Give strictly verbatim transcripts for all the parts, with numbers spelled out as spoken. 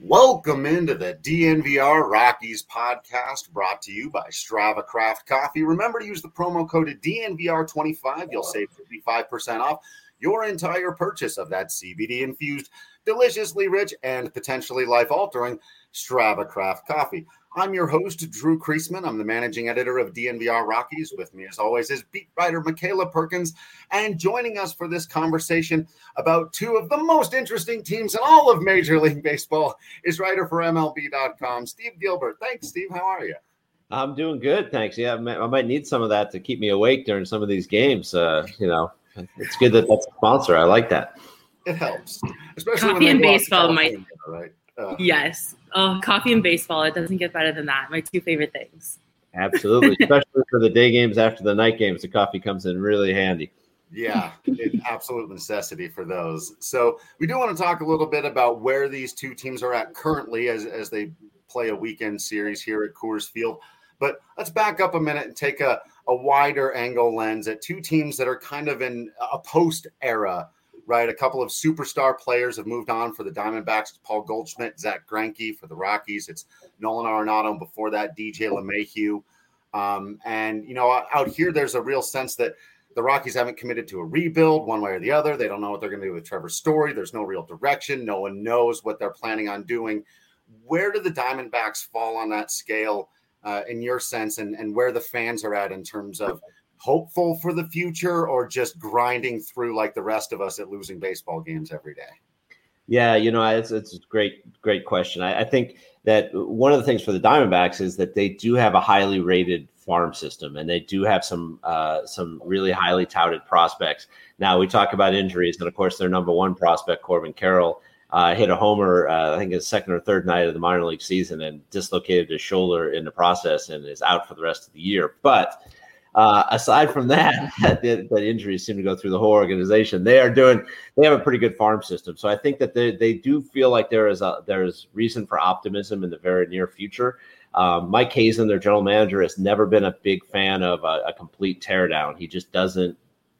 Welcome into the D N V R Rockies podcast, brought to you by Strava Craft Coffee. Remember to use the promo code D N V R twenty-five. You'll save fifty-five percent off your entire purchase of that C B D-infused, deliciously rich, and potentially life-altering Strava Craft Coffee. I'm your host, Drew Kreisman. I'm the managing editor of D N V R Rockies. With me, as always, is beat writer Michaela Perkins. And joining us for this conversation about two of the most interesting teams in all of Major League Baseball is writer for M L B dot com, Steve Gilbert. Thanks, Steve. How are you? I'm doing good, thanks. Yeah, I might need some of that to keep me awake during some of these games. Uh, you know, it's good that that's a sponsor. I like that. It helps, especially coffee when and baseball might. Right? Uh, yes. Oh, coffee and baseball. It doesn't get better than that. My two favorite things. Absolutely. Especially for the day games after the night games, the coffee comes in really handy. Yeah, an absolute necessity for those. So we do want to talk a little bit about where these two teams are at currently as, as they play a weekend series here at Coors Field. But let's back up a minute and take a, a wider angle lens at two teams that are kind of in a post-era, right? A couple of superstar players have moved on for the Diamondbacks. It's Paul Goldschmidt, Zach Greinke. For the Rockies, it's Nolan Arenado. And before that, D J LeMahieu. Um, and, you know, out here, there's a real sense that the Rockies haven't committed to a rebuild one way or the other. They don't know what they're going to do with Trevor Story. There's no real direction. No one knows what they're planning on doing. Where do the Diamondbacks fall on that scale, uh, in your sense, and, and where the fans are at in terms of hopeful for the future or just grinding through like the rest of us at losing baseball games every day? Yeah, you know, it's, it's a great, great question. I, I think that one of the things for the Diamondbacks is that they do have a highly rated farm system, and they do have some uh, some really highly touted prospects. Now, we talk about injuries, and of course, their number one prospect, Corbin Carroll, uh, hit a homer, uh, I think his second or third night of the minor league season and dislocated his shoulder in the process and is out for the rest of the year. But Uh, aside from that, that, that injuries seem to go through the whole organization. They are doing, they have a pretty good farm system. So I think that they, they do feel like there is a, there is reason for optimism in the very near future. Um, Mike Hazen, their general manager, has never been a big fan of a, a complete teardown. He just doesn't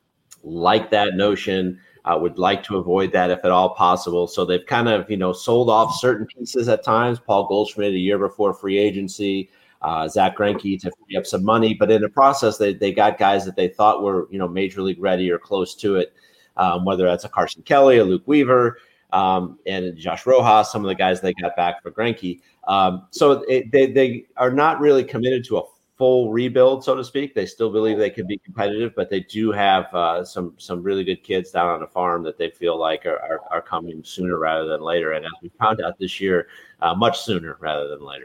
like that notion. Uh, would like to avoid that if at all possible. So they've kind of, you know, sold off certain pieces at times. Paul Goldschmidt a year before free agency. Uh, Zach Greinke to free up some money, but in the process, they they got guys that they thought were, you know, major league ready or close to it, um, whether that's a Carson Kelly, a Luke Weaver, um, and Josh Rojas, some of the guys they got back for Greinke. Um, so it, they they are not really committed to a full rebuild, so to speak. They still believe they can be competitive, but they do have uh, some some really good kids down on the farm that they feel like are are, are coming sooner rather than later. And as we found out this year, uh, much sooner rather than later.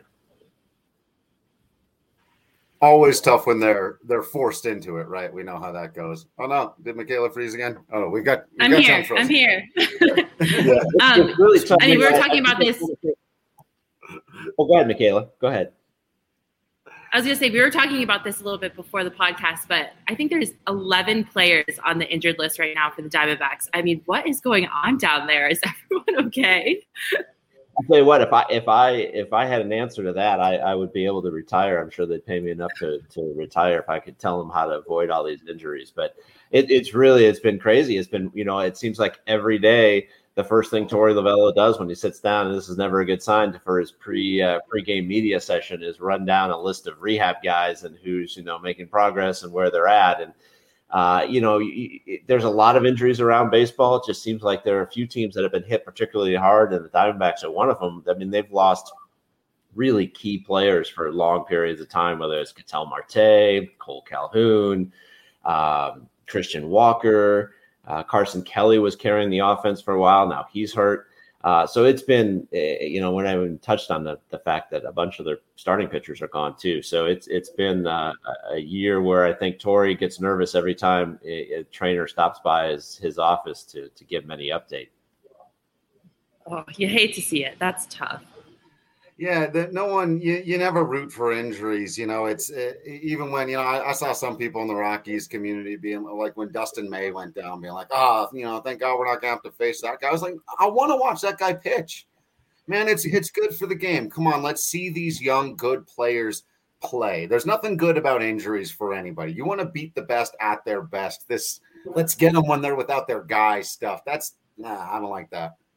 Always tough when they're they're forced into it, right? We know how that goes. Oh no, did Michaela freeze again? Oh, we got. We I'm, got here. I'm here. Yeah. um, really tough. I mean, we were talking about this. Oh, go ahead, Michaela. Go ahead. I was going to say, we were talking about this a little bit before the podcast, but I think there's eleven players on the injured list right now for the Diamondbacks. I mean, what is going on down there? Is everyone okay? I'll tell you what, if I if I if I had an answer to that, I, I would be able to retire. I'm sure they'd pay me enough to to retire if I could tell them how to avoid all these injuries. But it, it's really it's been crazy. It's been, you know, it seems like every day the first thing Torey Lovullo does when he sits down, and this is never a good sign for his pre uh, pregame media session, is run down a list of rehab guys and who's, you know, making progress and where they're at. And Uh, you know, y- y- there's a lot of injuries around baseball. It just seems like there are a few teams that have been hit particularly hard, and the Diamondbacks are one of them. I mean, they've lost really key players for long periods of time, whether it's Ketel Marte, Cole Calhoun, um, Christian Walker, uh, Carson Kelly was carrying the offense for a while. Now he's hurt. Uh, so it's been, uh, you know, when I even touched on the, the fact that a bunch of their starting pitchers are gone too. So it's it's been uh, a year where I think Torey gets nervous every time a, a trainer stops by his, his office to to give him any update. Oh, you hate to see it. That's tough. Yeah, that no one, you, you never root for injuries. You know, it's it, even when, you know, I, I saw some people in the Rockies community being like, when Dustin May went down, being like, oh, you know, thank God we're not going to have to face that guy. I was like, I want to watch that guy pitch. Man, it's it's good for the game. Come on, let's see these young, good players play. There's nothing good about injuries for anybody. You want to beat the best at their best. This, let's get them when they're without their guy stuff. That's, nah, I don't like that.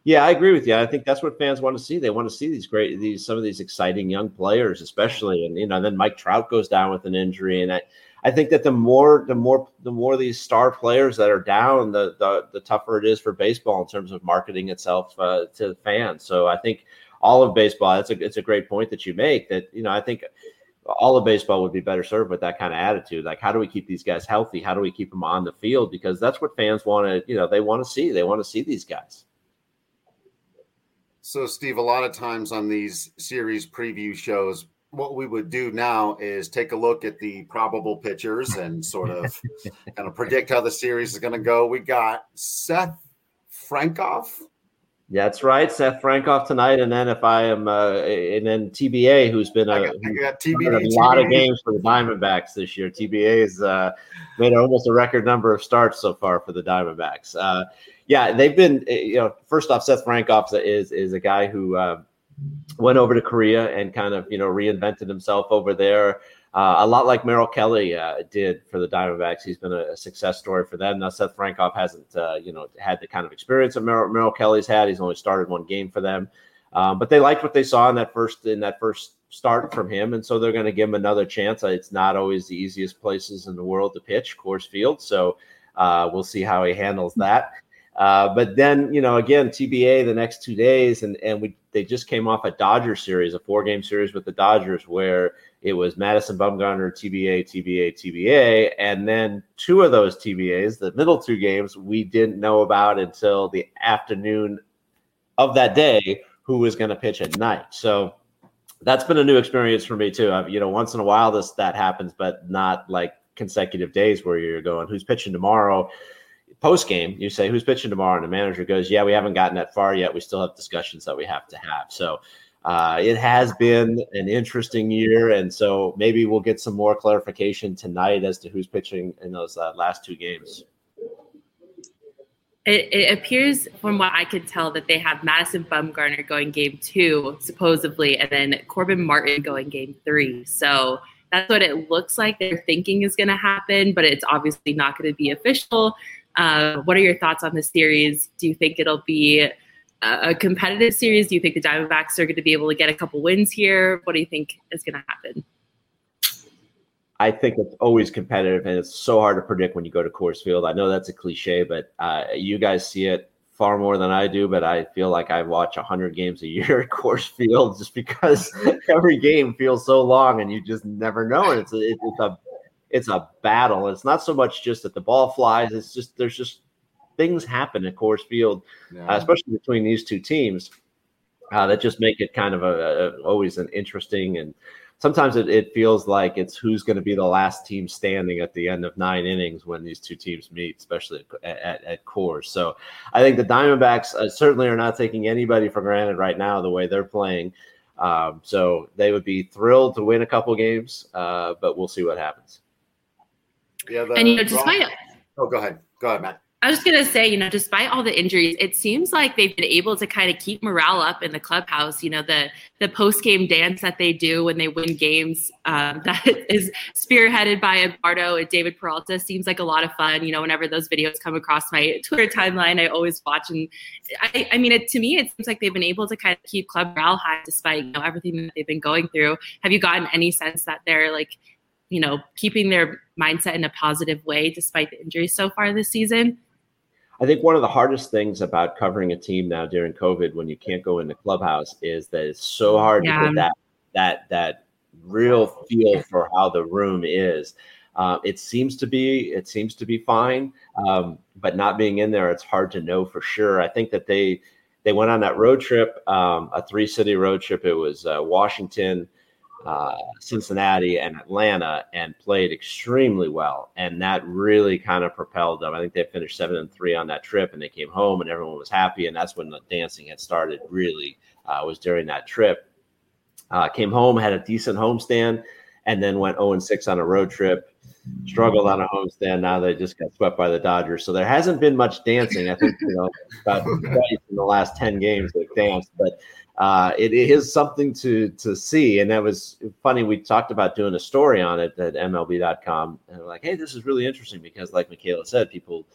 Yeah, I agree with you. I think that's what fans want to see. They want to see these great, these some of these exciting young players, especially, and you know, then Mike Trout goes down with an injury, and I, I think that the more, the more, the more these star players that are down, the the, the tougher it is for baseball in terms of marketing itself uh, to the fans. So I think all of baseball, that's a it's a great point that you make. That you know, I think all of baseball would be better served with that kind of attitude. Like, how do we keep these guys healthy? How do we keep them on the field? Because that's what fans want to, you know, they want to see. They want to see these guys. So, Steve, a lot of times on these series preview shows, what we would do now is take a look at the probable pitchers and sort of kind of predict how the series is going to go. We got Seth Frankoff. That's right, Seth Frankoff tonight, and then if I am, uh, and then T B A, who's been a, I got, I got T B A, a lot of games for the Diamondbacks this year. T B A has uh, made almost a record number of starts so far for the Diamondbacks. Uh, yeah, they've been, you know, first off, Seth Frankoff is is a guy who uh, went over to Korea and kind of, you know, reinvented himself over there. Uh, a lot like Merrill Kelly uh, did for the Diamondbacks. He's been a, a success story for them. Now, Seth Frankoff hasn't, uh, you know, had the kind of experience that Merrill, Merrill Kelly's had. He's only started one game for them, um, but they liked what they saw in that first in that first start from him, and so they're going to give him another chance. It's not always the easiest places in the world to pitch, Coors Field, so uh, we'll see how he handles that. Uh, but then, you know, again, T B A the next two days, and and we they just came off a Dodgers series, a four game series with the Dodgers, where it was Madison Bumgarner, T B A, T B A, T B A, and then two of those T B As, the middle two games, we didn't know about until the afternoon of that day who was going to pitch at night. So that's been a new experience for me too. I've, you know, once in a while this that happens, but not like consecutive days where you're going, who's pitching tomorrow? Post game, you say, who's pitching tomorrow? And the manager goes, yeah, we haven't gotten that far yet. We still have discussions that we have to have. So uh, it has been an interesting year. And so maybe we'll get some more clarification tonight as to who's pitching in those uh, last two games. It, it appears from what I could tell that they have Madison Bumgarner going game two, supposedly, and then Corbin Martin going game three. So that's what it looks like they're thinking is going to happen, but it's obviously not going to be official. Uh, what are your thoughts on the series? Do you think it'll be a, a competitive series? Do you think the Diamondbacks are going to be able to get a couple wins here? What do you think is going to happen? I think it's always competitive, and it's so hard to predict when you go to Coors Field. I know that's a cliche, but uh, you guys see it far more than I do, but I feel like I watch one hundred games a year at Coors Field just because every game feels so long and you just never know. And it's a, it's a It's a battle. It's not so much just that the ball flies. It's just there's just things happen at Coors Field, yeah. uh, especially between these two teams, uh, that just make it kind of a, a always an interesting. And sometimes it, it feels like it's who's going to be the last team standing at the end of nine innings when these two teams meet, especially at, at, at Coors. So I think the Diamondbacks uh, certainly are not taking anybody for granted right now the way they're playing. Um, so they would be thrilled to win a couple games, uh, but we'll see what happens. Yeah, the, and you know, despite oh, go ahead, go ahead, Matt. I was just gonna say, you know, despite all the injuries, it seems like they've been able to kind of keep morale up in the clubhouse. You know, the the post game dance that they do when they win games, um, that is spearheaded by Eduardo and David Peralta, seems like a lot of fun. You know, whenever those videos come across my Twitter timeline, I always watch. And I, I mean, it, to me, it seems like they've been able to kind of keep club morale high despite, you know, everything that they've been going through. Have you gotten any sense that they're like, you know, keeping their mindset in a positive way despite the injuries so far this season? I think one of the hardest things about covering a team now during COVID, when you can't go in the clubhouse, is that it's so hard yeah. to get that that that real feel for how the room is. Uh, it seems to be it seems to be fine, um, but not being in there, it's hard to know for sure. I think that they they went on that road trip, um, a three city road trip. It was uh, Washington, Uh, Cincinnati, and Atlanta, and played extremely well, and that really kind of propelled them. I think they finished seven and three on that trip, and they came home, and everyone was happy. And that's when the dancing had started. Really, uh, was during that trip. Uh, came home, had a decent homestand, and then went zero and six on a road trip. Struggled on a homestand. Now they just got swept by the Dodgers. So there hasn't been much dancing. I think you know about twice in the last ten games they've danced, but. Uh, it, it is something to to see, and that was funny. We talked about doing a story on it at M L B dot com, and we're like, "Hey, this is really interesting," because, like Michaela said, people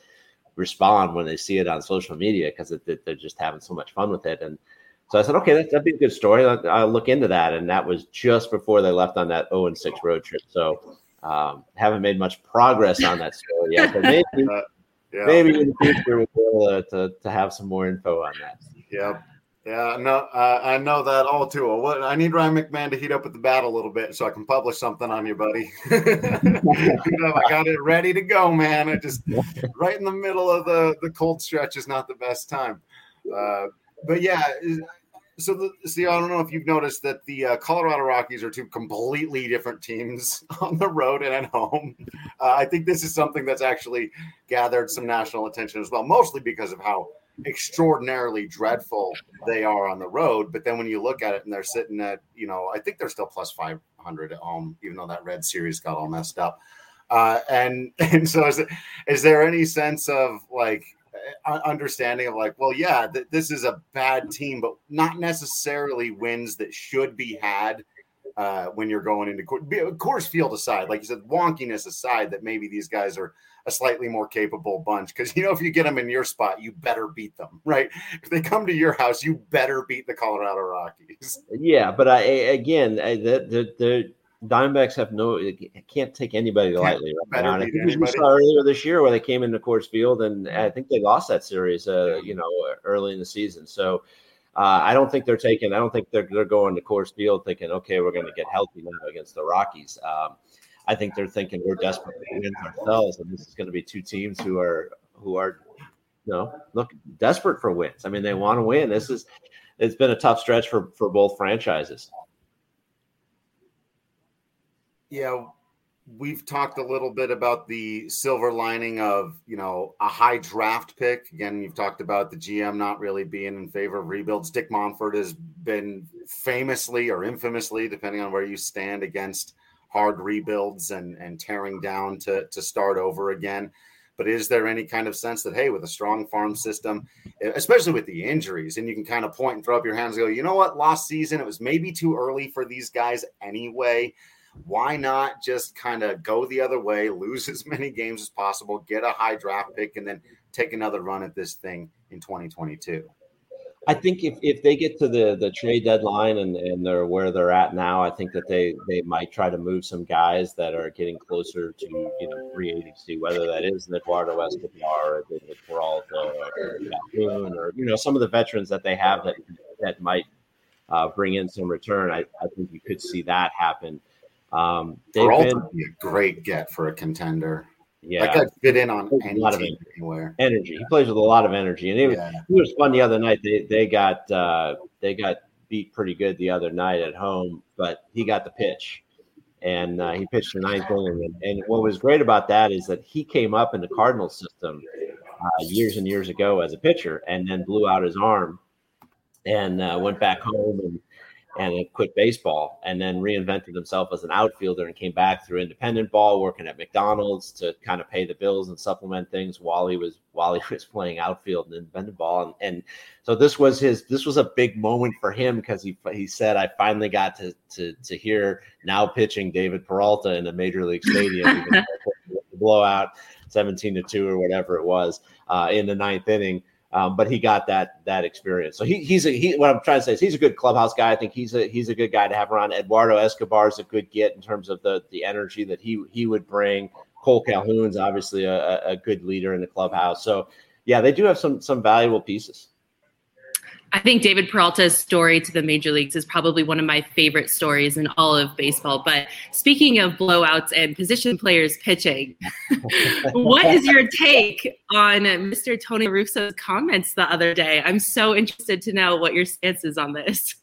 respond when they see it on social media because they're just having so much fun with it. And so I said, okay, that, that'd be a good story. I'll, I'll look into that. And that was just before they left on that oh and six road trip. So um, haven't made much progress on that story yet, but maybe, uh, yeah. maybe in the future we'll be able to, to have some more info on that. Yeah. Yeah, no, uh, I know that all too well. What, I need Ryan McMahon to heat up with the bat a little bit so I can publish something on you, buddy. You know, I got it ready to go, man. I just right in the middle of the, the cold stretch is not the best time. Uh, but yeah, so the, see, I don't know if you've noticed that the uh, Colorado Rockies are two completely different teams on the road and at home. Uh, I think this is something that's actually gathered some national attention as well, mostly because of how extraordinarily dreadful they are on the road. But then when you look at it and they're sitting at, you know, I think they're still plus five hundred at home, even though that red series got all messed up. Uh, and, and so is, it, is there any sense of like understanding of like, well, yeah, th- this is a bad team, but not necessarily wins that should be had uh, when you're going into Coors Field aside, like you said, wonkiness aside, that maybe these guys are a slightly more capable bunch. Because, you know, if you get them in your spot, you better beat them, right? If they come to your house, you better beat the Colorado Rockies. Yeah, but I again, I, the, the the Diamondbacks have no can't take anybody lightly right now. And I think we saw earlier this year where they came into Coors Field, and I think they lost that series, uh, you know, early in the season. So uh, I don't think they're taking. I don't think they're they're going to Coors Field thinking, okay, we're going to get healthy now against the Rockies. Um, I think they're thinking we're desperate to win ourselves, and this is going to be two teams who are who are, you know, look desperate for wins. I mean, they want to win. This is it's been a tough stretch for for both franchises. Yeah, we've talked a little bit about the silver lining of, you know, a high draft pick. Again, you've talked about the G M not really being in favor of rebuilds. Dick Monfort has been famously or infamously, depending on where you stand, against hard rebuilds and, and tearing down to, to start over again. But is there any kind of sense that, hey, with a strong farm system, especially with the injuries, and you can kind of point and throw up your hands and go, you know what, last season, it was maybe too early for these guys anyway. Why not just kind of go the other way, lose as many games as possible, get a high draft pick, and then take another run at this thing in twenty twenty-two? I think if, if they get to the, the trade deadline and, and they're where they're at now, I think that they, they might try to move some guys that are getting closer to, you know, free agency, whether that is Eduardo Escobar or David Peralta or Calhoun or, you know, some of the veterans that they have that that might uh, bring in some return. I, I think you could see that happen. Um, Peralta would be a great get for a contender. Yeah, that could fit in on any a lot team of anywhere. Energy. He plays with a lot of energy, and it, yeah. it was fun the other night. They they got uh, they got beat pretty good the other night at home, but he got the pitch, and uh, he pitched the ninth inning. And, and what was great about that is that he came up in the Cardinals system uh, years and years ago as a pitcher, and then blew out his arm, and uh, went back home and. and quit baseball, and then reinvented himself as an outfielder and came back through independent ball, working at McDonald's to kind of pay the bills and supplement things while he was while he was playing outfield and independent ball. And, and so this was his this was a big moment for him because he he said, I finally got to to to hear now pitching David Peralta in a major league stadium, even the blowout seventeen to two or whatever it was uh, in the ninth inning. Um, but he got that that experience. So he, he's a he. What I'm trying to say is he's a good clubhouse guy. I think he's a he's a good guy to have around. Eduardo Escobar is a good get in terms of the the energy that he he would bring. Cole Calhoun's obviously a, a good leader in the clubhouse. So yeah, they do have some some valuable pieces. I think David Peralta's story to the major leagues is probably one of my favorite stories in all of baseball. But speaking of blowouts and position players pitching, what is your take on Mister Tony La Russa's comments the other day? I'm so interested to know what your stance is on this.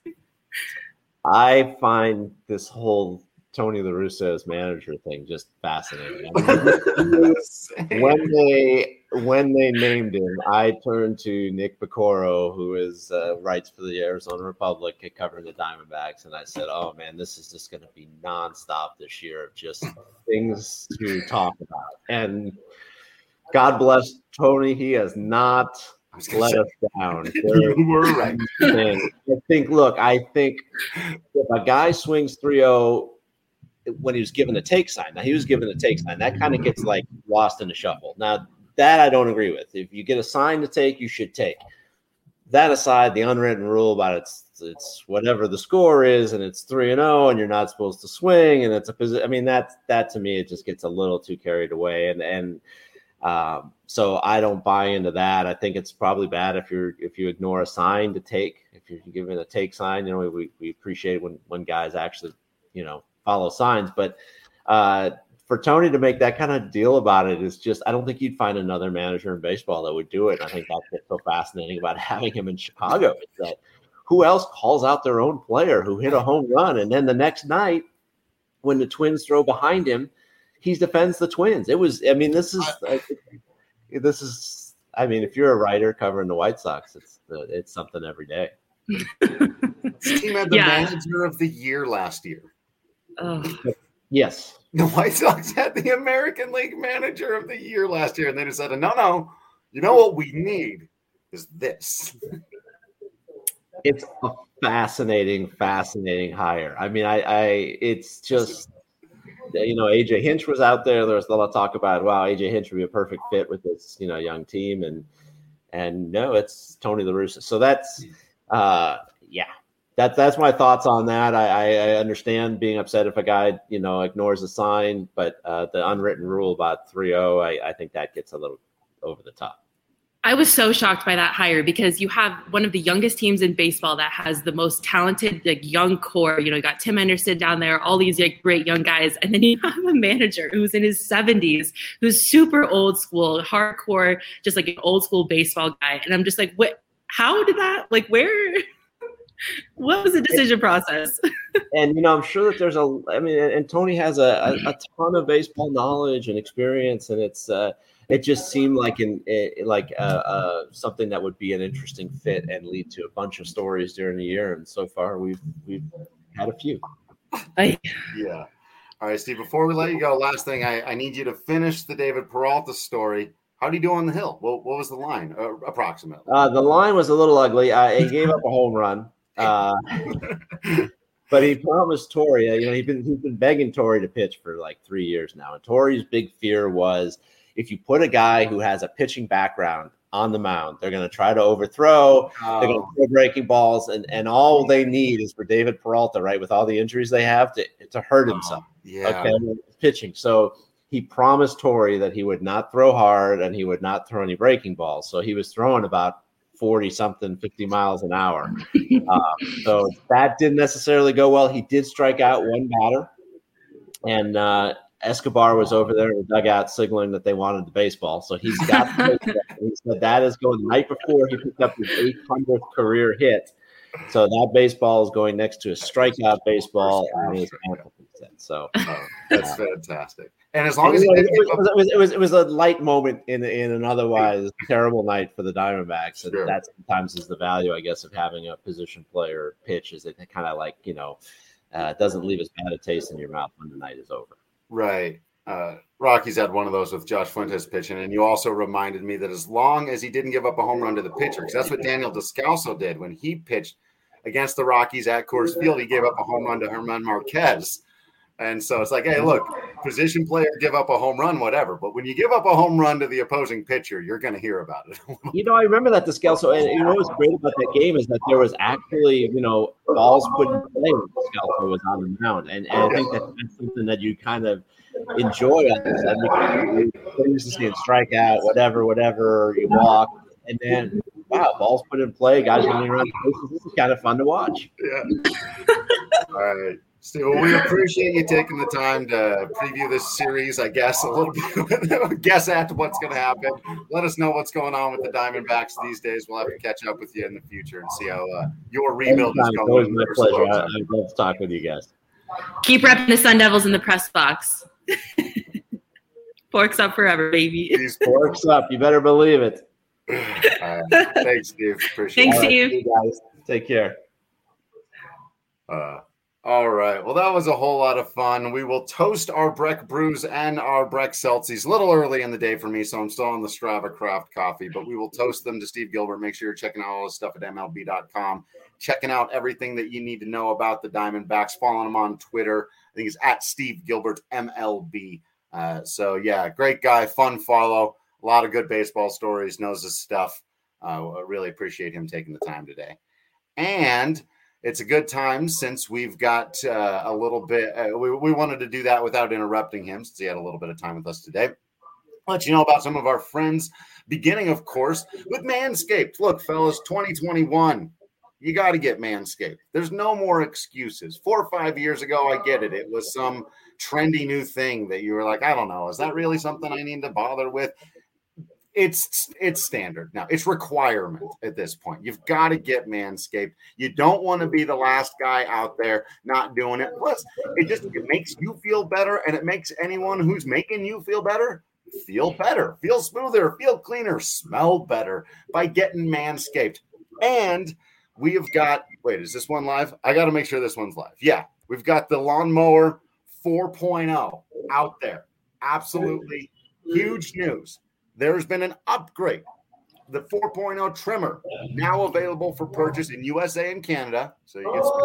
I find this whole Tony La Russa as manager thing just fascinating. I mean, when they when they named him, I turned to Nick Piccoro, who is uh, writes for the Arizona Republic, covering the Diamondbacks, and I said, "Oh man, this is just going to be nonstop this year of just things to talk about." And God bless Tony, he has not let us down. You were right. I think. Look, I think if a guy swings three oh. When he was given the take sign. Now he was given the take sign. That kind of gets like lost in the shuffle. Now that I don't agree with. If you get a sign to take, you should take. That aside, the unwritten rule about it's it's whatever the score is, and it's three and zero, and you're not supposed to swing, and it's a position. I mean, that that to me, it just gets a little too carried away, and and um, so I don't buy into that. I think it's probably bad if you're if you ignore a sign to take. If you're giving a take sign, you know, we we appreciate when when guys actually, you know, follow signs, but uh, for Tony to make that kind of deal about it is just, I don't think you'd find another manager in baseball that would do it. I think that's what's so fascinating about having him in Chicago is that who else calls out their own player who hit a home run, and then the next night when the Twins throw behind him, he defends the Twins. It was, I mean, this is, uh, this is, I mean, if you're a writer covering the White Sox, it's uh, it's something every day. This team had the Yeah. manager of the year last year. Oh. Yes. The White Sox had the American League Manager of the Year last year, and they decided, no, no, you know what we need is this. It's a fascinating, fascinating hire. I mean, I, I, it's just, you know, A J Hinch was out there. There was a lot of talk about, wow, A J Hinch would be a perfect fit with this, you know, young team, and and no, it's Tony La Russa. So that's, uh, yeah. That, that's my thoughts on that. I, I understand being upset if a guy, you know, ignores a sign, but uh, the unwritten rule about three oh, I, I think that gets a little over the top. I was so shocked by that hire because you have one of the youngest teams in baseball that has the most talented, like, young core. You know, you got Tim Anderson down there, all these like great young guys, and then you have a manager who's in his seventies, who's super old school, hardcore, just like an old school baseball guy. And I'm just like, what? How did that? Like, where? What was the decision process? And, you know, I'm sure that there's a, I mean, and Tony has a, a, a ton of baseball knowledge and experience, and it's, uh, it just seemed like an, it, like uh, uh, something that would be an interesting fit and lead to a bunch of stories during the year. And so far, we've we've had a few. I, Yeah. All right, Steve, before we let you go, last thing, I, I need you to finish the David Peralta story. How did he do on the hill? What, what was the line, uh, approximately? Uh, the line was a little ugly. Uh, he gave up a home run. Uh, but he promised Torrey, uh, you know, he's been he's been begging Torrey to pitch for like three years now. And Torrey's big fear was if you put a guy who has a pitching background on the mound, they're going to try to overthrow, Oh. they're going to throw breaking balls, and, and all they need is for David Peralta, right, with all the injuries they have, to to hurt himself. Yeah. Okay, pitching. So he promised Torrey that he would not throw hard and he would not throw any breaking balls. So he was throwing about forty something, fifty miles an hour. Um, so that didn't necessarily go well. He did strike out one batter, and uh, Escobar was over there in the dugout signaling that they wanted the baseball. So he's got the baseball. He said that is going the night before he picked up his eight hundredth career hit. So that baseball is going next to a strikeout baseball and his ankle set. So Oh, that's fantastic. And as long as it, he was, did give it, up, was, it, was, it was it was a light moment in in an otherwise terrible night for the Diamondbacks, and Sure. that sometimes is the value, I guess, of having a position player pitch. Is it kind of like, you know, uh, doesn't leave as bad a taste in your mouth when the night is over. right. Uh, Rocky's had one of those with Josh Fuentes pitching, and you also reminded me that as long as he didn't give up a home run to the pitcher, because that's what Daniel Descalso did when he pitched against the Rockies at Coors Field. He gave up a home run to Herman Marquez. And so it's like, hey, look, position player give up a home run, whatever. But when you give up a home run to the opposing pitcher, you're going to hear about it. You know, I remember that Descalso, and you know what's great about that game is that there was actually, you know, balls put in play when Descalso was on the mound. And, and I think that that's something that you kind of enjoy on this. I mean, you're used to seeing strikeout, whatever, whatever, you walk, and then, wow, balls put in play, guys running around the bases. This is kind of fun to watch. Yeah. All right. Steve, well, we appreciate you taking the time to preview this series, I guess, a little bit, guess at what's going to happen. Let us know what's going on with the Diamondbacks these days. We'll have to catch up with you in the future and see how uh, your rebuild is Anytime. It's going. always my pleasure. I, I'd love to talk with you guys. keep repping the Sun Devils in the press box. Forks up forever, baby. These Forks up. You better believe it. All right. Thanks, Steve. Appreciate Thanks, it. All right, Steve. see you guys. Take care. Uh, all right. Well, that was a whole lot of fun. We will toast our Breck Brews and our Breck Celsius. A little early in the day for me, so I'm still on the Strava Craft coffee, but we will toast them to Steve Gilbert. Make sure you're checking out all the stuff at M L B dot com, checking out everything that you need to know about the Diamondbacks, following him on Twitter. I think it's at Steve Gilbert M L B. Uh, so, yeah, great guy, fun follow. A lot of good baseball stories, knows his stuff. Uh, I really appreciate him taking the time today. And it's a good time since we've got uh, a little bit. Uh, we, we wanted to do that without interrupting him since he had a little bit of time with us today. I'll let you know about some of our friends, beginning, of course, with Manscaped. Look, fellas, twenty twenty-one, you got to get Manscaped. There's no more excuses. Four or five years ago, I get it. It was some trendy new thing that you were like, I don't know. Is that really something I need to bother with? It's it's standard now. It's requirement at this point. You've got to get Manscaped. You don't want to be the last guy out there not doing it. Plus, it just it makes you feel better, and it makes anyone who's making you feel better feel better, feel smoother, feel cleaner, smell better by getting Manscaped. And we have got, wait, is this one live? I got to make sure this one's live. Yeah, we've got the Lawnmower four point oh out there. Absolutely huge news. There's been an upgrade. The four point oh trimmer now available for purchase in U S A and Canada. So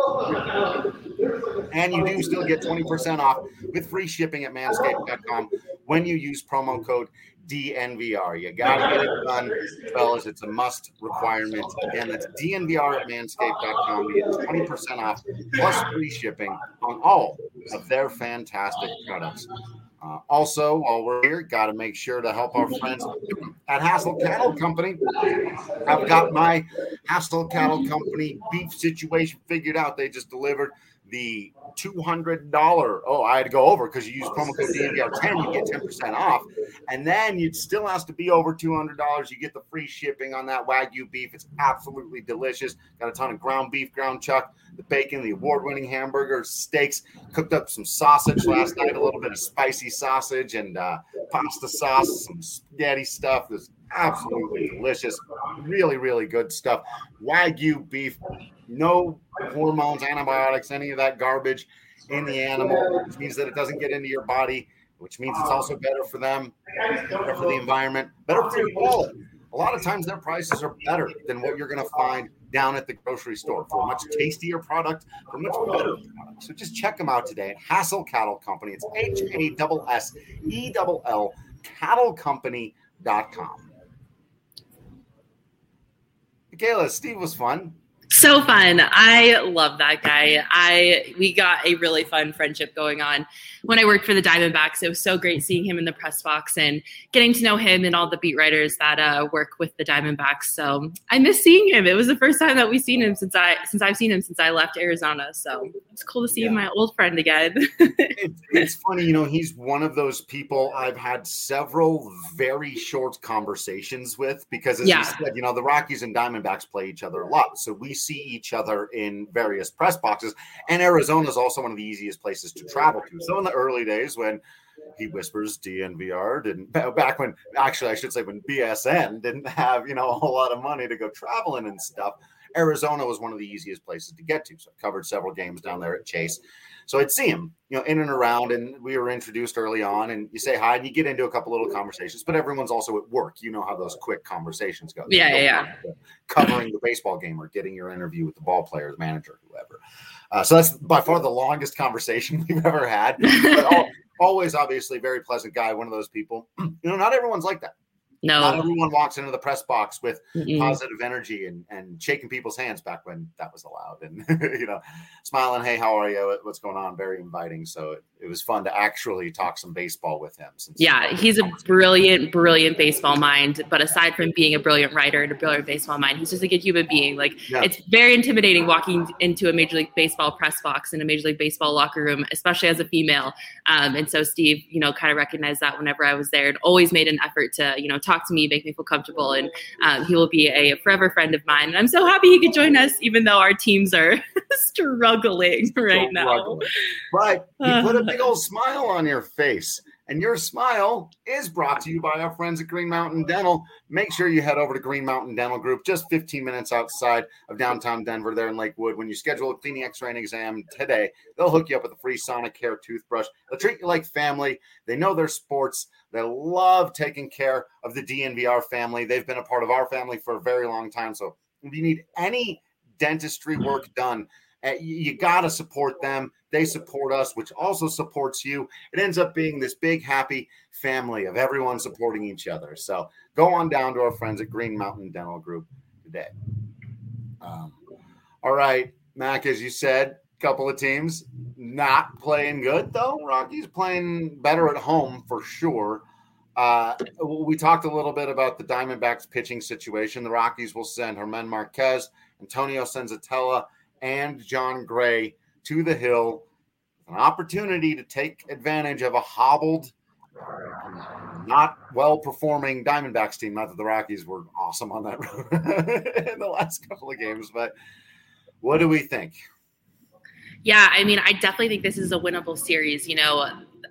you get, and you do still get twenty percent off with free shipping at manscaped dot com when you use promo code D N V R. You got to get it done, fellas. It's a must requirement. Again, that's D N V R at manscaped dot com. You get twenty percent off plus free shipping on all of their fantastic products. Uh, also, while we're here, got to make sure to help our friends at Hassel Cattle Company. I've got my Hassel Cattle Company beef situation figured out. They just delivered the two hundred dollars. Oh, I had to go over because you use promo code D N V R ten, you get ten percent off. And then it still has to be over two hundred dollars. You get the free shipping on that Wagyu beef. It's absolutely delicious. Got a ton of ground beef, ground chuck, the bacon, the award-winning hamburgers, steaks. Cooked up some sausage last night, a little bit of spicy sausage and uh, pasta sauce, some spaghetti stuff. It's absolutely delicious. Really, really good stuff. Wagyu beef, no hormones, antibiotics, any of that garbage in the animal, which means that it doesn't get into your body, which means it's also better for them, better for the environment, better for your wallet. A lot of times their prices are better than what you're going to find down at the grocery store for a much tastier product, for a much better product. So just check them out today at Hassel Cattle Company. It's H A S S E L L cattle company dot com. Michaela, Steve was fun. So fun. I love that guy. I we got a really fun friendship going on when I worked for the Diamondbacks. It was so great seeing him in the press box and getting to know him and all the beat writers that uh, work with the Diamondbacks. So I miss seeing him. It was the first time that we've seen him since I since I've seen him since I left Arizona. So it's cool to see yeah. my old friend again. it, it's funny, you know, he's one of those people I've had several very short conversations with because, as yeah. you said, you know, the Rockies and Diamondbacks play each other a lot. So we see each other in various press boxes, and Arizona is also one of the easiest places to travel to. So in the early days when he whispers D N V R didn't back when actually I should say when B S N didn't have, you know, a whole lot of money to go traveling and stuff, Arizona was one of the easiest places to get to. So I covered several games down there at Chase. So I'd see him, you know, in and around, and we were introduced early on, and you say hi and you get into a couple little conversations, but everyone's also at work. You know how those quick conversations go. Yeah, yeah, yeah. Covering the baseball game or getting your interview with the ball player, the manager, whoever. Uh, so that's by far the longest conversation we've ever had. But all, always, obviously, very pleasant guy, one of those people. You know, not everyone's like that. No. Not everyone walks into the press box with Mm-mm. positive energy and, and shaking people's hands back when that was allowed. And, you know, smiling, hey, how are you? What's going on? Very inviting. So it, it was fun to actually talk some baseball with him. Since yeah, he's a brilliant, brilliant baseball mind. But aside from being a brilliant writer and a brilliant baseball mind, he's just a good human being. Like, yeah. It's very intimidating walking into a Major League Baseball press box in a Major League Baseball locker room, especially as a female. Um, and so Steve, you know, kind of recognized that whenever I was there and always made an effort to, you know, talk to me, make me feel comfortable. And um, he will be a forever friend of mine. And I'm so happy he could join us, even though our teams are struggling right now. But you put a big old smile on your face. And your smile is brought to you by our friends at Green Mountain Dental. Make sure you head over to Green Mountain Dental Group, just fifteen minutes outside of downtown Denver there in Lakewood. When you schedule a cleaning, x-ray, and exam today, they'll hook you up with a free Sonicare toothbrush. They'll treat you like family. They know their sports. They love taking care of the D N V R family. They've been a part of our family for a very long time. So if you need any dentistry work done, You got to support them. They support us, which also supports you. It ends up being this big, happy family of everyone supporting each other. So go on down to our friends at Green Mountain Dental Group today. Um, all right, Mac, as you said, a couple of teams not playing good, though. Rockies playing better at home for sure. Uh, we talked a little bit about the Diamondbacks pitching situation. The Rockies will send Germán Marquez, Antonio Senzatella, and John Gray to the Hill. An opportunity to take advantage of a hobbled, not well-performing Diamondbacks team. Not that the Rockies were awesome on that road in the last couple of games, but what do we think? Yeah, I mean, I definitely think this is a winnable series. You know,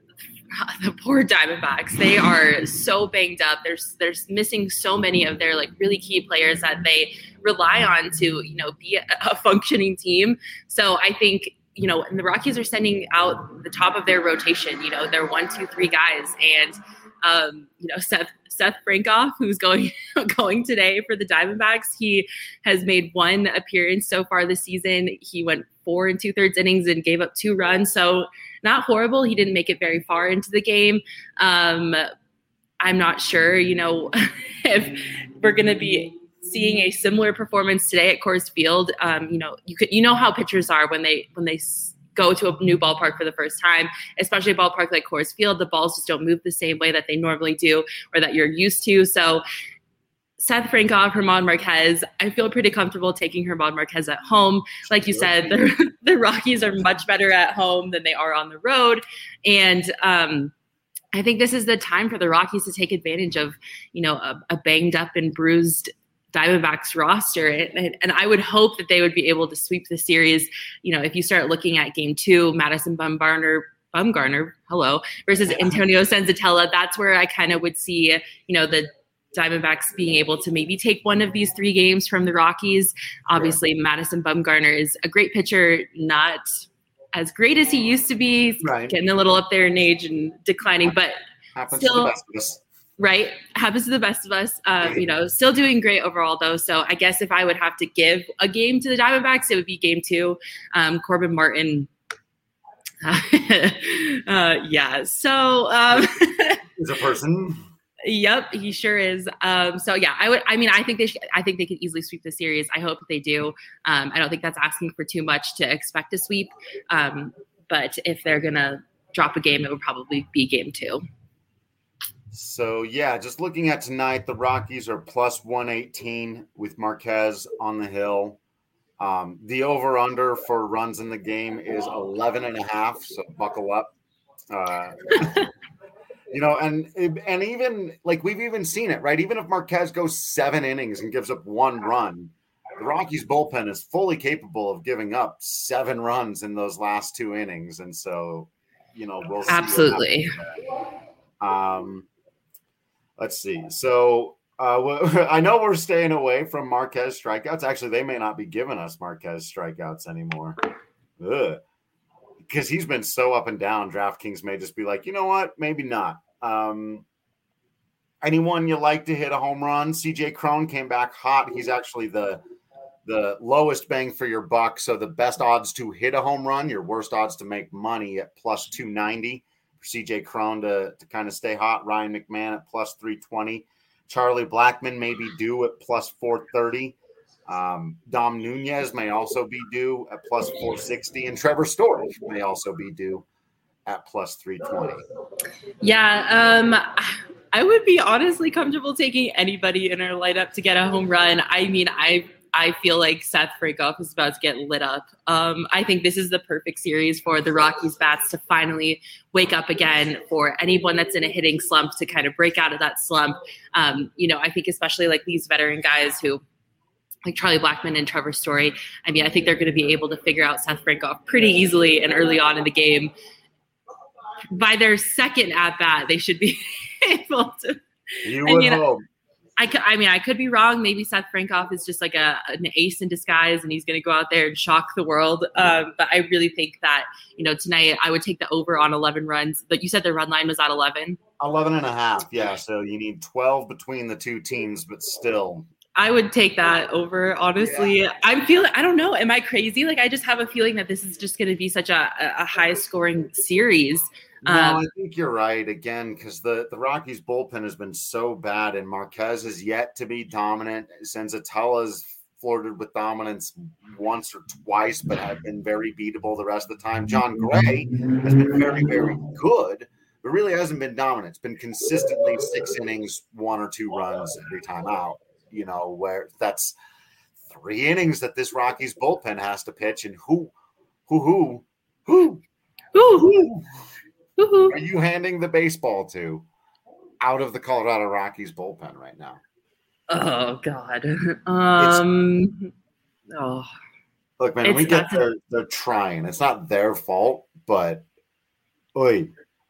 the poor Diamondbacks, they are so banged up. They're, they're missing so many of their like really key players that they rely on to, you know, be a, a functioning team. So I think, you know, and the Rockies are sending out the top of their rotation, you know, they're one, two, three guys. And, um, you know, Seth, Seth Frankoff, who's going, going today for the Diamondbacks, he has made one appearance so far this season. He went four and two thirds innings and gave up two runs. So not horrible. He didn't make it very far into the game. Um, I'm not sure, you know, if we're going to be seeing a similar performance today at Coors Field. Um, you know, you could, you know how pitchers are when they, when they go to a new ballpark for the first time, especially a ballpark like Coors Field, the balls just don't move the same way that they normally do or that you're used to. So Seth Frankoff, Germán Marquez, I feel pretty comfortable taking Germán Marquez at home. Like you said, the, the Rockies are much better at home than they are on the road. And um, I think this is the time for the Rockies to take advantage of, you know, a, a banged up and bruised Diamondbacks roster. And, and I would hope that they would be able to sweep the series. You know, if you start looking at game two, Madison Bumgarner, Bumgarner, hello, versus Antonio Senzatella, that's where I kind of would see, you know, the Diamondbacks being able to maybe take one of these three games from the Rockies. Obviously, yeah. Madison Bumgarner is a great pitcher, not as great as he used to be, right. Getting a little up there in age and declining, but happens still, to the best of us. Right. Happens to the best of us. Um, you know, still doing great overall, though. So I guess if I would have to give a game to the Diamondbacks, it would be game two. Um, Corbin Martin. Uh, uh, yeah. So um, he's a person. Yep, he sure is. Um, so yeah, I would. I mean, I think they. Should, I think they could easily sweep the series. I hope they do. Um, I don't think that's asking for too much to expect a sweep. Um, but if they're gonna drop a game, it would probably be game two. So yeah, just looking at tonight, the Rockies are plus one eighteen with Marquez on the hill. Um, the over under for runs in the game is eleven and a half. So buckle up. Uh, You know, and and even like we've even seen it, right? Even if Marquez goes seven innings and gives up one run, the Rockies bullpen is fully capable of giving up seven runs in those last two innings. And so, you know, we'll see. Absolutely. Um, let's see. So uh, I know we're staying away from Marquez strikeouts. Actually, they may not be giving us Marquez strikeouts anymore. Ugh. Because he's been so up and down, DraftKings may just be like, you know what, maybe not. Um, anyone you like to hit a home run? C J Cron came back hot. He's actually the the lowest bang for your buck. So the best odds to hit a home run, your worst odds to make money at plus two ninety for C J Cron to, to kind of stay hot. Ryan McMahon at plus three twenty. Charlie Blackmon may be due at plus four thirty. Um, Dom Nunez may also be due at plus four sixty, and Trevor Story may also be due at plus three twenty. Yeah, um, I would be honestly comfortable taking anybody in our lineup to get a home run. I mean, I I feel like Seth Frankoff is about to get lit up. Um, I think this is the perfect series for the Rockies bats to finally wake up again, for anyone that's in a hitting slump to kind of break out of that slump. Um, you know, I think especially like these veteran guys who, like Charlie Blackmon and Trevor Story, I mean, I think they're going to be able to figure out Seth Frankoff pretty easily and early on in the game. By their second at bat, they should be able to. You would I mean, hope. I, could, I mean, I could be wrong. Maybe Seth Frankoff is just like a an ace in disguise, and he's going to go out there and shock the world. Um, but I really think that, you know, tonight I would take the over on eleven runs. But you said the run line was at eleven. eleven and a half. Yeah. So you need twelve between the two teams, but still. I would take that over, honestly. Yeah. I'm feeling, I don't know. Am I crazy? Like, I just have a feeling that this is just going to be such a, a high scoring series. No, um, I think you're right again, because the, the Rockies bullpen has been so bad, and Marquez is yet to be dominant. Senzatella's flirted with dominance once or twice, but have been very beatable the rest of the time. John Gray has been very, very good, but really hasn't been dominant. It's been consistently six innings, one or two runs every time out. You know, where that's three innings that this Rockies bullpen has to pitch, and who, who, who, who, who, who, who, who are you handing the baseball to out of the Colorado Rockies bullpen right now? Oh God. Um. It's, oh. Look, man, we get they're they're trying. It's not their fault, but, oy.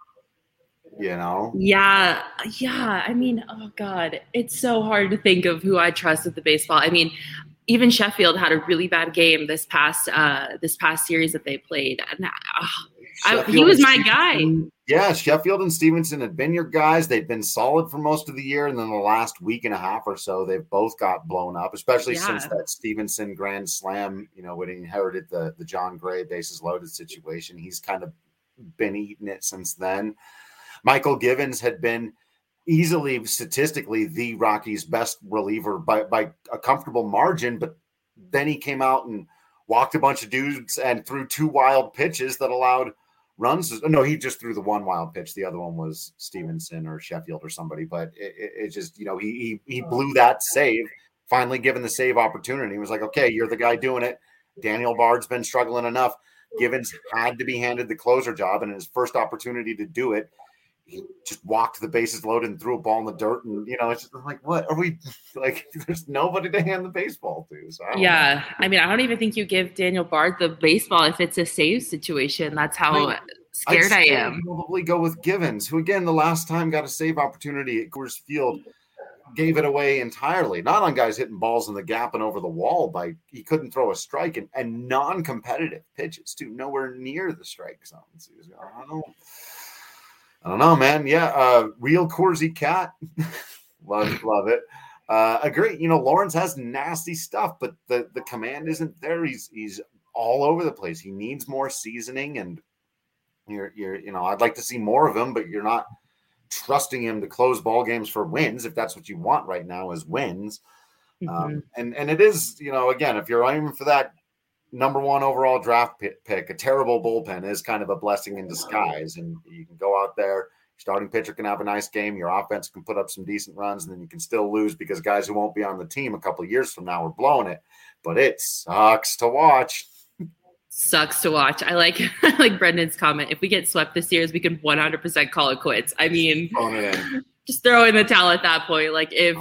You know? Yeah. Yeah. I mean, oh God, it's so hard to think of who I trust with the baseball. I mean, even Sheffield had a really bad game this past, uh, this past series that they played. And uh, I, he was my guy. Yeah. Sheffield and Stevenson had been your guys. They'd been solid for most of the year. And then the last week and a half or so, they've both got blown up, especially yeah. since that Stevenson grand slam, you know, when he inherited the, the John Gray bases loaded situation. He's kind of been eating it since then. Michael Givens had been easily statistically the Rockies' best reliever by, by a comfortable margin, but then he came out and walked a bunch of dudes and threw two wild pitches that allowed runs. No, he just threw the one wild pitch. The other one was Stevenson or Sheffield or somebody, but it, it, it just, you know, he, he, he blew that save, finally given the save opportunity. He was like, okay, you're the guy doing it. Daniel Bard's been struggling enough. Givens had to be handed the closer job, and his first opportunity to do it, he just walked the bases loaded and threw a ball in the dirt. And, you know, it's just like, what are we like? There's nobody to hand the baseball to. So I yeah. know. I mean, I don't even think you give Daniel Bard the baseball if it's a save situation. That's how I, scared I am. Probably go with Givens, who, again, the last time got a save opportunity at Coors Field, gave it away entirely. Not on guys hitting balls in the gap and over the wall by he couldn't throw a strike, and, and non-competitive pitches too, nowhere near the strike zone. So I don't know. I don't know, man. Yeah, uh, real Corsi cat. love, love it. Uh, agree. You know, Lawrence has nasty stuff, but the, the command isn't there. He's he's all over the place. He needs more seasoning, and you're you're you know, I'd like to see more of him, but you're not trusting him to close ball games for wins. If that's what you want right now, is wins. Mm-hmm. Um, and and it is, you know, again, if you're aiming for that number one overall draft pick, a terrible bullpen is kind of a blessing in disguise. And you can go out there, starting pitcher can have a nice game, your offense can put up some decent runs, and then you can still lose because guys who won't be on the team a couple of years from now are blowing it. But it sucks to watch. Sucks to watch. I like I like Brendan's comment. If we get swept this year, we can one hundred percent call it quits. I mean, just throw in the towel at that point. Like if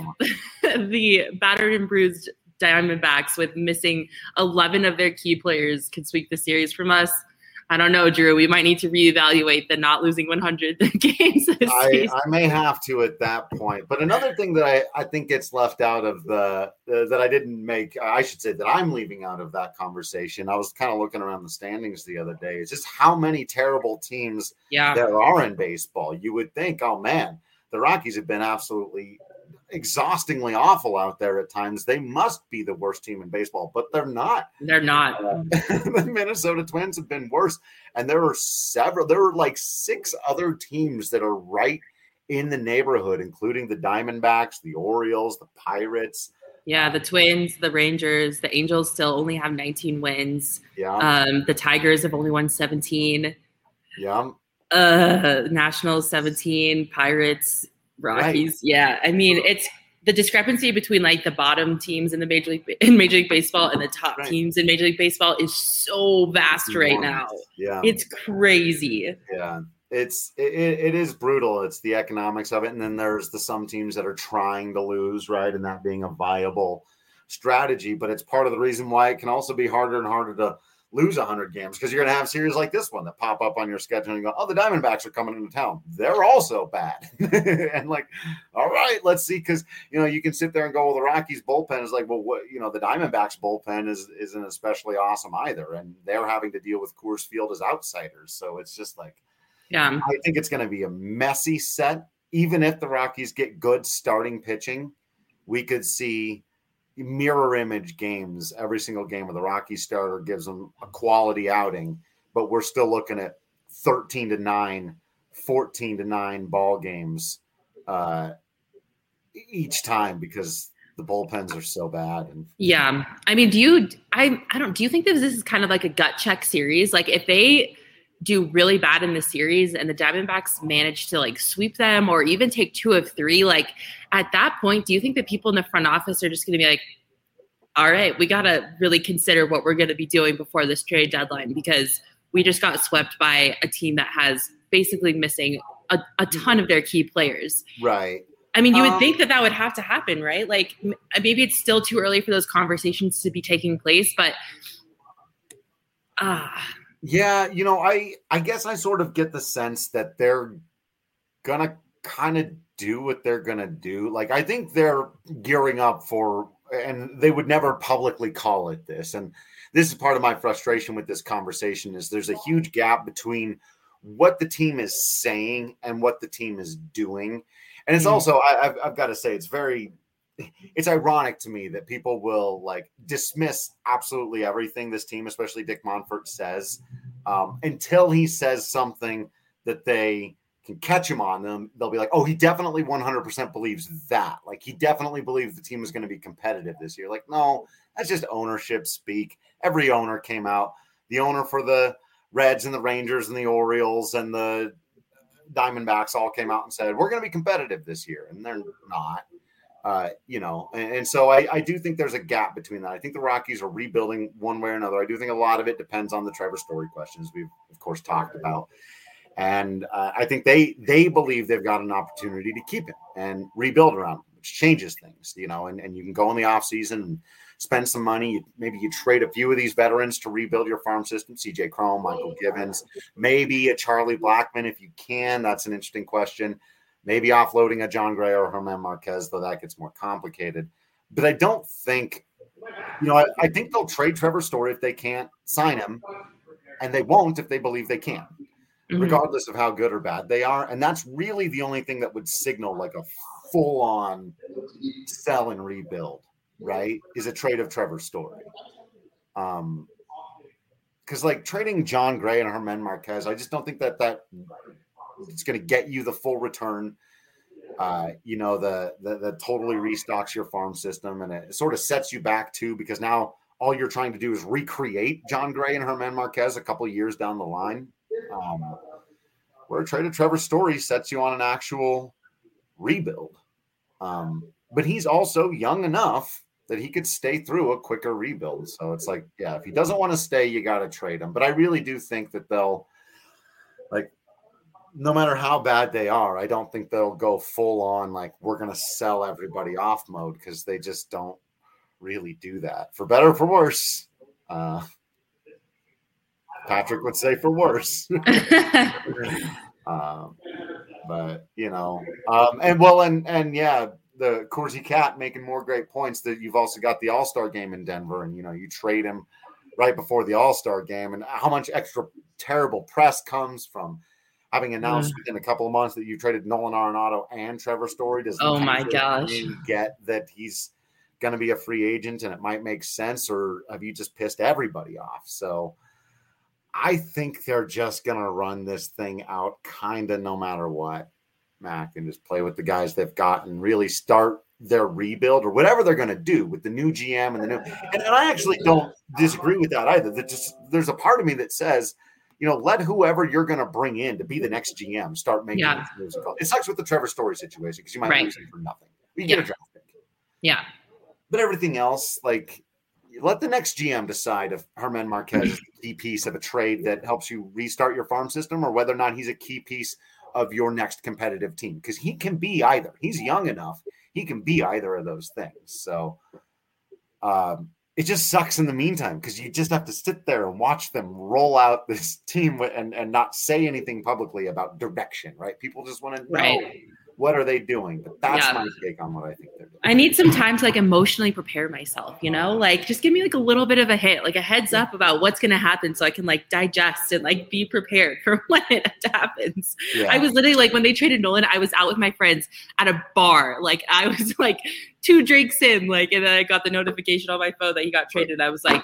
the battered and bruised Diamondbacks with missing eleven of their key players can sweep the series from us, I don't know, Drew. We might need to reevaluate the not losing one hundred games this I, season. I may have to at that point. But another thing that I, I think gets left out of the uh, that I didn't make, I should say that I'm leaving out of that conversation. I was kind of looking around the standings the other day. It's just how many terrible teams yeah. there are in baseball. You would think, oh man, the Rockies have been absolutely exhaustingly awful out there at times. They must be the worst team in baseball, but they're not. They're not. Uh, the Minnesota Twins have been worse, and there are several. There are like six other teams that are right in the neighborhood, including the Diamondbacks, the Orioles, the Pirates. Yeah, the Twins, the Rangers, the Angels still only have nineteen wins. Yeah. Um, the Tigers have only won seventeen. Yeah. Uh, Nationals seventeen, Pirates, Rockies. Right. Yeah. I mean, it's the discrepancy between like the bottom teams in the Major League in Major League Baseball and the top right. teams in Major League Baseball is so vast right now. Yeah. It's crazy. Yeah. It's it, it is brutal. It's the economics of it. And then there's the some teams that are trying to lose, right? And that being a viable strategy. But it's part of the reason why it can also be harder and harder to lose one hundred games, because you're going to have series like this one that pop up on your schedule and you go, oh, the Diamondbacks are coming into town. They're also bad. And like, all right, let's see. Because, you know, you can sit there and go, well, the Rockies bullpen is like, well, what, you know, the Diamondbacks bullpen is, isn't especially awesome either. And they're having to deal with Coors Field as outsiders. So it's just like, yeah, I think it's going to be a messy set. Even if the Rockies get good starting pitching, we could see mirror image games. Every single game of the Rockies starter gives them a quality outing, but we're still looking at thirteen to nine, fourteen to nine ball games uh, each time because the bullpens are so bad. And yeah, I mean, do you? I I don't. Do you think that this is kind of like a gut check series? Like if they do really bad in the series and the Diamondbacks manage to like sweep them or even take two of three, like at that point, do you think that people in the front office are just going to be like, all right, we got to really consider what we're going to be doing before this trade deadline because we just got swept by a team that has basically missing a, a ton of their key players. Right. I mean, you would um, think that that would have to happen, right? Like maybe it's still too early for those conversations to be taking place, but ah, uh, yeah, you know, I I guess I sort of get the sense that they're gonna kind of do what they're gonna do. Like I think they're gearing up for, and they would never publicly call it this. And this is part of my frustration with this conversation is there's a huge gap between what the team is saying and what the team is doing. And it's also, I, I've, I've got to say, it's very, it's ironic to me that people will like dismiss absolutely everything this team, especially Dick Monfort, says um, until he says something that they can catch him on them. They'll be like, oh, he definitely one hundred percent believes that. Like he definitely believes the team is going to be competitive this year. Like, no, that's just ownership speak. Every owner came out, the owner for the Reds and the Rangers and the Orioles and the Diamondbacks all came out and said, we're going to be competitive this year. And they're not. Uh, you know, and, and so I, I do think there's a gap between that. I think the Rockies are rebuilding one way or another. I do think a lot of it depends on the Trevor Story questions we've, of course, talked about. And uh, I think they they believe they've got an opportunity to keep him and rebuild around him, which changes things, you know, and, and you can go in the offseason and spend some money. Maybe you trade a few of these veterans to rebuild your farm system, C J Cron, Michael Givens, maybe a Charlie Blackmon if you can. That's an interesting question. Maybe offloading a John Gray or German Marquez, though that gets more complicated. But I don't think, you know, I, I think they'll trade Trevor Story if they can't sign him, and they won't if they believe they can, mm-hmm. regardless of how good or bad they are. And that's really the only thing that would signal like a full-on sell and rebuild, right, is a trade of Trevor Story. Um, because like trading John Gray and German Marquez, I just don't think that that – it's going to get you the full return, uh, you know, the, the the totally restocks your farm system, and it sort of sets you back too, because now all you're trying to do is recreate John Gray and German Marquez a couple of years down the line. Um, where a trade of Trevor Story sets you on an actual rebuild. Um, but he's also young enough that he could stay through a quicker rebuild. So it's like, yeah, if he doesn't want to stay, you got to trade him. But I really do think that they'll, like, no matter how bad they are, I don't think they'll go full on like we're going to sell everybody off mode, because they just don't really do that, for better or for worse. Uh, Patrick would say for worse. um, but, you know, um, and well, and, and yeah, the Corsi Cat making more great points that you've also got the All-Star game in Denver, and, you know, you trade him right before the All-Star game, and how much extra terrible press comes from having announced mm. within a couple of months that you traded Nolan Arenado and Trevor Story. Does oh my gosh get that he's going to be a free agent and it might make sense, or have you just pissed everybody off? So I think they're just going to run this thing out kind of no matter what, Mac, and just play with the guys they've got and really start their rebuild or whatever they're going to do with the new G M and the new. And, and I actually don't disagree with that either. That just there's a part of me that says, you know, let whoever you're going to bring in to be the next G M start making yeah. moves. It sucks with the Trevor Story situation because you might right. lose him for nothing. You yeah. get a draft pick. Yeah. But everything else, like, let the next G M decide if German Marquez is a key piece of a trade that helps you restart your farm system, or whether or not he's a key piece of your next competitive team. Because he can be either. He's young enough. He can be either of those things. So, um, it just sucks in the meantime, because you just have to sit there and watch them roll out this team and, and not say anything publicly about direction, right? People just want to know right. What are they doing? But that's Yeah. my take on what I think they're doing. I need some time to like emotionally prepare myself, you know, like just give me like a little bit of a hit, like a heads up about what's going to happen so I can like digest and like be prepared for when it happens. Yeah. I was literally like, when they traded Nolan, I was out with my friends at a bar. Like I was like two drinks in, like, and then I got the notification on my phone that he got traded. I was like,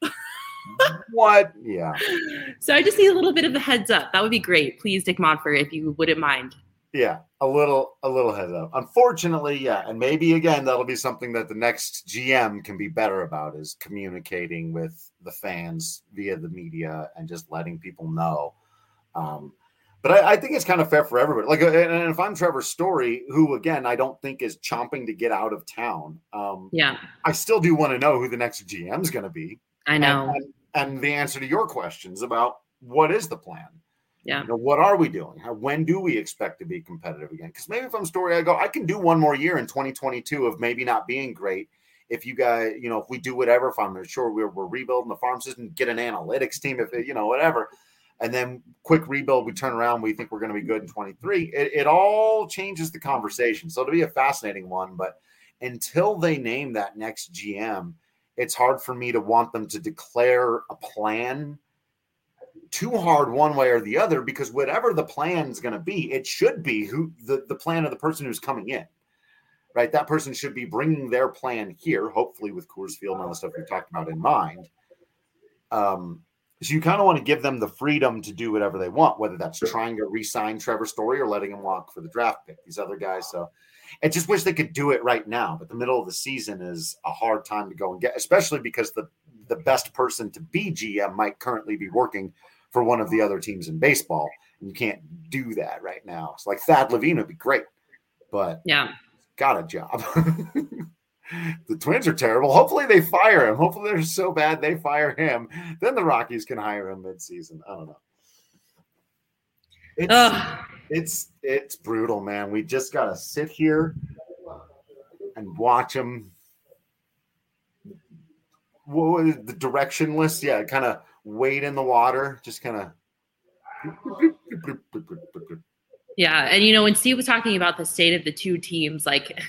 what? Yeah. So I just need a little bit of a heads up. That would be great. Please, Dick Monfort, if you wouldn't mind. Yeah, a little, a little heads up. Unfortunately, yeah, and maybe again that'll be something that the next G M can be better about, is communicating with the fans via the media and just letting people know. Um, but I, I think it's kind of fair for everybody. Like, and if I'm Trevor Story, who again I don't think is chomping to get out of town, um, yeah, I still do want to know who the next G M is going to be. I know, and, and, and the answer to your questions about what is the plan. Yeah. You know, what are we doing? How, when do we expect to be competitive again? Because maybe if I'm Story, I go, I can do one more year in twenty twenty-two of maybe not being great. If you guys, you know, if we do whatever, if I'm sure we're, we're rebuilding the farm system, get an analytics team, if it, you know, whatever. And then quick rebuild, we turn around, we think we're going to be good in twenty-three. It, it all changes the conversation. So it'll be a fascinating one. But until they name that next G M, it's hard for me to want them to declare a plan too hard one way or the other, because whatever the plan is going to be, it should be who the, the plan of the person who's coming in, right? That person should be bringing their plan here, hopefully with Coors Field and all the stuff we've talked about in mind. Um, so you kind of want to give them the freedom to do whatever they want, whether that's trying to re-sign Trevor Story or letting him walk for the draft pick, these other guys. So I just wish they could do it right now, but the middle of the season is a hard time to go and get, especially because the, the best person to be G M might currently be working for one of the other teams in baseball. And you can't do that right now. It's like Thad Levine would be great, but yeah, got a job. The Twins are terrible. Hopefully they fire him. Hopefully they're so bad they fire him. Then the Rockies can hire him mid-season. I don't know. It's Ugh. it's it's brutal, man. We just gotta sit here and watch them. What was the directionless? Yeah, kind of wade in the water, just kind of. Yeah, and you know, when Steve was talking about the state of the two teams, like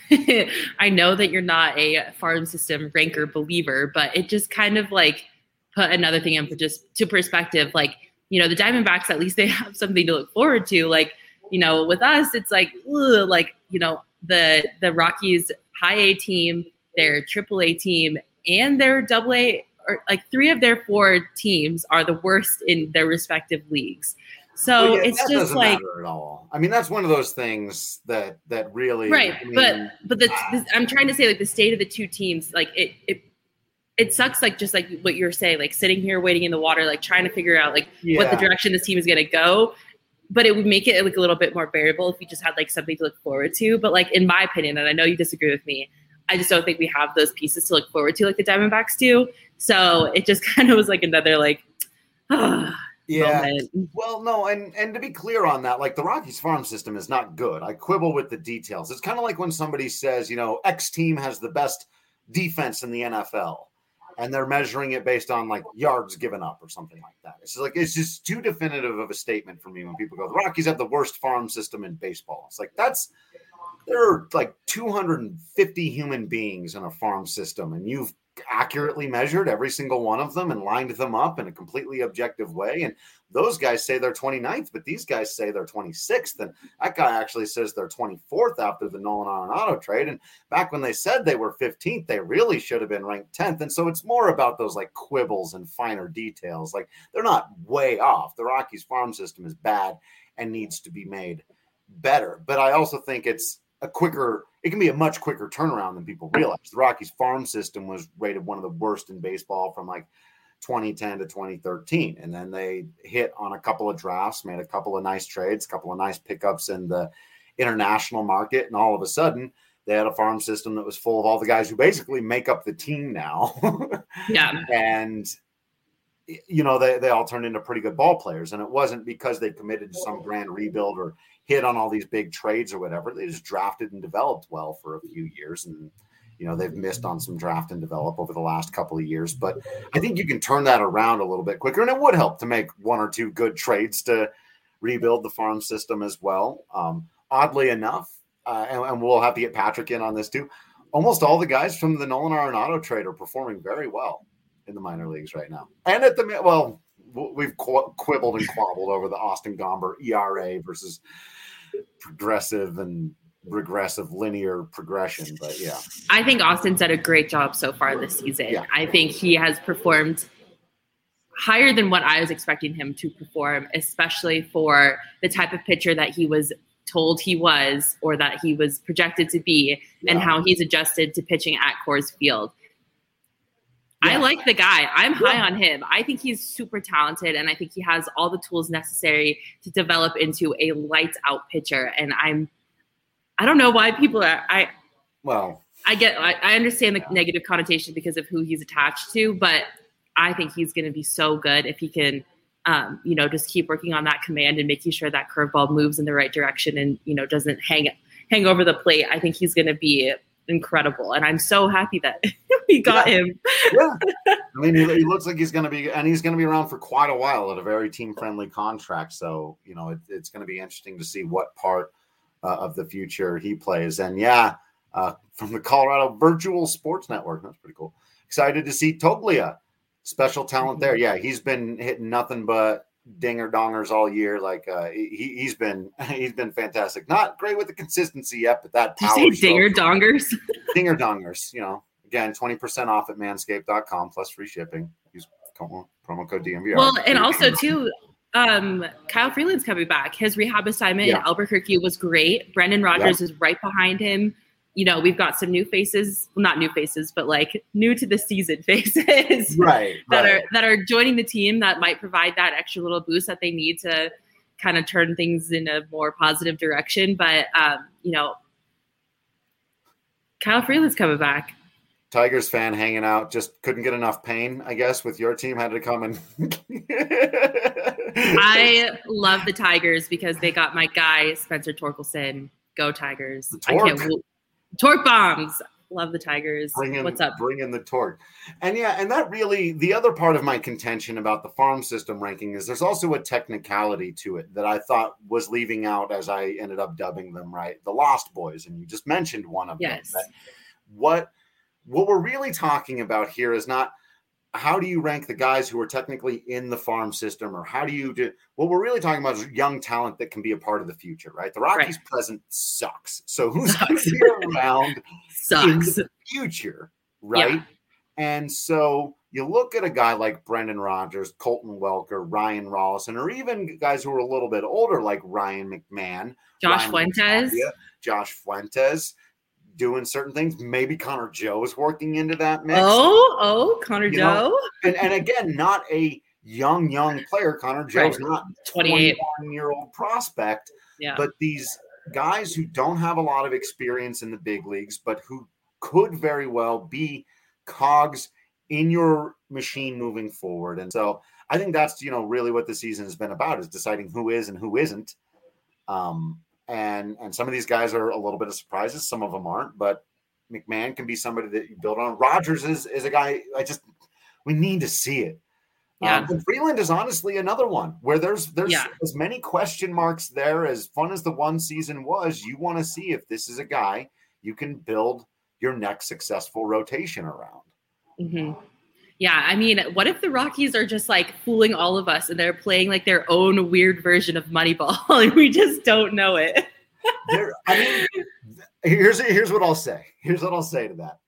I know that you're not a farm system ranker believer, but it just kind of like put another thing in for just to perspective. Like, you know, the Diamondbacks, at least they have something to look forward to. Like, you know, with us, it's like, ugh, like, you know, the the Rockies high A team, their triple A team, and their double A, or like three of their four teams are the worst in their respective leagues. So well, yeah, it's just like at all. I mean, that's one of those things that that really right. I mean, but but the, this, I'm trying to say, like, the state of the two teams, like it it it sucks. Like just like what you're saying, like sitting here waiting in the water, like trying to figure out like yeah. what the direction this team is going to go. But it would make it like a little bit more bearable if you just had like something to look forward to. But like in my opinion, and I know you disagree with me, I just don't think we have those pieces to look forward to like the Diamondbacks do. So it just kind of was like another like, ah. Yeah. Moment. Well, no, and and to be clear on that, like the Rockies farm system is not good. I quibble with the details. It's kind of like when somebody says, you know, X team has the best defense in the N F L, and they're measuring it based on like yards given up or something like that. It's just like it's just too definitive of a statement for me when people go, the Rockies have the worst farm system in baseball. It's like that's there are like two hundred fifty human beings in a farm system, and you've accurately measured every single one of them and lined them up in a completely objective way. And those guys say they're twenty-ninth, but these guys say they're twenty-sixth. And that guy actually says they're twenty-fourth after the Nolan Arenado trade. And back when they said they were fifteenth, they really should have been ranked tenth. And so it's more about those like quibbles and finer details. Like they're not way off. The Rockies farm system is bad and needs to be made better. But I also think it's a quicker, it can be a much quicker turnaround than people realize. The Rockies farm system was rated one of the worst in baseball from like twenty ten to twenty thirteen. And then they hit on a couple of drafts, made a couple of nice trades, a couple of nice pickups in the international market. And all of a sudden they had a farm system that was full of all the guys who basically make up the team now. Yeah. And, you know, they, they all turned into pretty good ball players. And it wasn't because they committed to some grand rebuild or hit on all these big trades or whatever. They just drafted and developed well for a few years. And, you know, they've missed on some draft and develop over the last couple of years. But I think you can turn that around a little bit quicker. And it would help to make one or two good trades to rebuild the farm system as well. Um, oddly enough, uh, and, and we'll have to get Patrick in on this too. Almost all the guys from the Nolan Arenado trade are performing very well in the minor leagues right now. And at the well, we've qu- quibbled and quabbled over the Austin Gomber E R A versus progressive and regressive linear progression, but yeah, I think Austin's done a great job so far this season. Yeah. I think he has performed higher than what I was expecting him to perform, especially for the type of pitcher that he was told he was, or that he was projected to be, yeah. and how he's adjusted to pitching at Coors Field. Yeah. I like the guy. I'm high yeah. on him. I think he's super talented, and I think he has all the tools necessary to develop into a lights out pitcher. And I'm, I don't know why people are, I, well, I get, I, I understand the negative connotation because of who he's attached to, but I think he's going to be so good if he can, um, you know, just keep working on that command and making sure that curveball moves in the right direction and, you know, doesn't hang hang over the plate. I think he's going to be incredible, and I'm so happy that we got yeah. him. yeah, I mean, he, he looks like he's going to be, and he's going to be around for quite a while at a very team-friendly contract. So, you know, it, it's going to be interesting to see what part uh, of the future he plays. And yeah, uh, from the Colorado Virtual Sports Network, that's pretty cool. Excited to see Toglia. Special talent there. Yeah, he's been hitting nothing but dinger dongers all year. Like uh, he he's been he's been fantastic. Not great with the consistency yet, but that power. Did you say dinger dongers? Dinger dongers. You know, again, twenty percent off at manscaped dot com plus free shipping. Use promo code D M V R. Well, and also too, um, Kyle Freeland's coming back. His rehab assignment yeah. in Albuquerque was great. Brendan Rodgers yeah. is right behind him. You know, we've got some new faces, well, not new faces, but like new to the season faces right, that right. are that are joining the team that might provide that extra little boost that they need to kind of turn things in a more positive direction. But, um, you know, Kyle Freeland's coming back. Tigers fan hanging out, just couldn't get enough pain, I guess, with your team, had to come and I love the Tigers because they got my guy, Spencer Torkelson. Go Tigers. I can't Torque bombs. Love the Tigers. Bring in, What's up? Bring in the torque. And yeah, and that really, the other part of my contention about the farm system ranking is there's also a technicality to it that I thought was leaving out, as I ended up dubbing them, right? The Lost Boys. And you just mentioned one of yes. them. What, what we're really talking about here is not how do you rank the guys who are technically in the farm system, or how do you do what we're really talking about is young talent that can be a part of the future, right? The Rockies right. present sucks. So who's going to be around sucks. in the future, right? Yeah. And so you look at a guy like Brendan Rodgers, Colton Welker, Ryan Rollison, or even guys who are a little bit older like Ryan McMahon, Josh Ryan Fuentes, Matavia, Josh Fuentes, doing certain things. Maybe Connor Joe is working into that mix. Oh, oh, Connor you Joe. And, and again, not a young, young player. Connor Joe's right. not twenty-eight year old prospect. Yeah. But these guys who don't have a lot of experience in the big leagues, but who could very well be cogs in your machine moving forward. And so I think that's, you know, really what the season has been about, is deciding who is and who isn't. Um, And and some of these guys are a little bit of surprises. Some of them aren't, but McMahon can be somebody that you build on. Rodgers is, is a guy I just we need to see it. Yeah. Um, and Freeland is honestly another one where there's there's yeah. as many question marks there. As fun as the one season was, you want to see if this is a guy you can build your next successful rotation around. Mm-hmm. Yeah, I mean, what if the Rockies are just like fooling all of us and they're playing like their own weird version of Moneyball and we just don't know it? there, I mean, here's here's what I'll say. Here's what I'll say to that.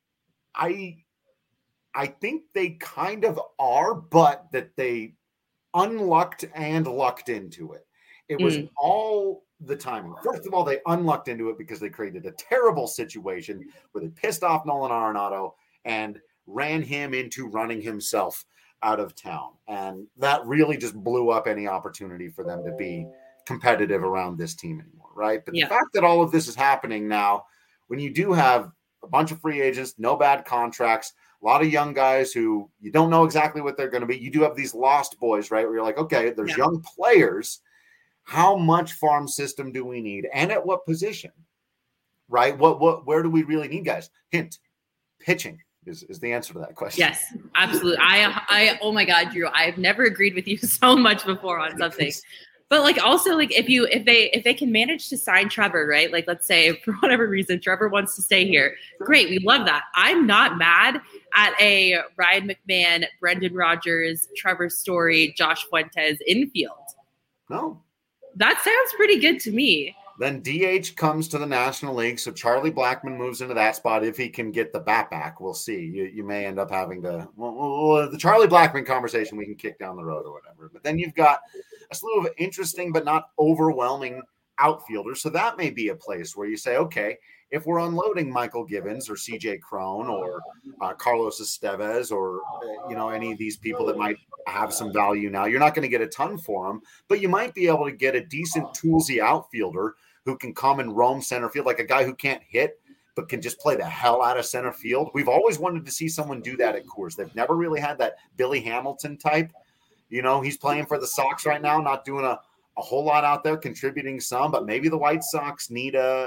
I I think they kind of are, but that they unlucked and lucked into it. It was mm. all the timing. First of all, they unlucked into it because they created a terrible situation where they pissed off Nolan Arenado and ran him into running himself out of town. And that really just blew up any opportunity for them to be competitive around this team anymore, right? But yeah. the fact that all of this is happening now, when you do have a bunch of free agents, no bad contracts, a lot of young guys who you don't know exactly what they're going to be. You do have these lost boys, right? Where you're like, okay, there's yeah. young players. How much farm system do we need? And at what position, right? What, what, where do we really need guys? Hint, pitching is, is the answer to that question. Yes, absolutely. I, I, oh my God, Drew, I've never agreed with you so much before on something. But like also like if you if they if they can manage to sign Trevor, right? Like let's say for whatever reason Trevor wants to stay here. Great, we love that. I'm not mad at a Ryan McMahon, Brendan Rodgers, Trevor Story, Josh Fuentes infield. No. That sounds pretty good to me. Then D H comes to the National League, so Charlie Blackmon moves into that spot if he can get the bat back. We'll see. You you may end up having to well, well, the Charlie Blackmon conversation we can kick down the road or whatever. But then you've got a slew of interesting but not overwhelming outfielders. So that may be a place where you say, okay, if we're unloading Michael Gibbons or C J Cron or uh, Carlos Estevez or uh, you know any of these people that might have some value now, you're not going to get a ton for them, but you might be able to get a decent toolsy outfielder who can come and roam center field, like a guy who can't hit but can just play the hell out of center field. We've always wanted to see someone do that at Coors. They've never really had that Billy Hamilton type. You know, he's playing for the Sox right now, not doing a, a whole lot out there, contributing some, but maybe the White Sox need a,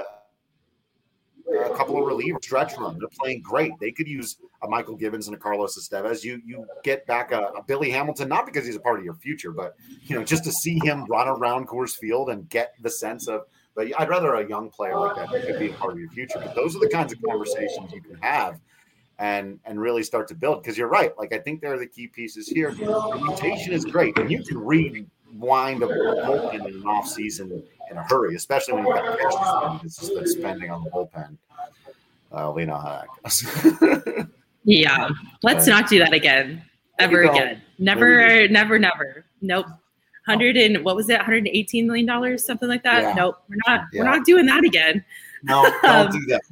a couple of relievers, stretch run. They're playing great. They could use a Michael Gibbons and a Carlos Estevez. You you get back a, a Billy Hamilton, not because he's a part of your future, but, you know, just to see him run around Coors Field and get the sense of, but I'd rather a young player like that that could be a part of your future. But those are the kinds of conversations you can have and and really start to build. Because you're right. Like, I think they're the key pieces here. The rotation is great. And you can rewind a bullpen in an offseason in a hurry, especially when you've got cash to spend. It's just that spending on the bullpen. Uh, we know how that goes. Yeah. Let's not do that again. Ever again. Never, never, never. Nope. Hundred and what was it? one hundred eighteen million dollars, something like that. Yeah. Nope, we're not. Yeah. We're not doing that again. No, don't um, do that.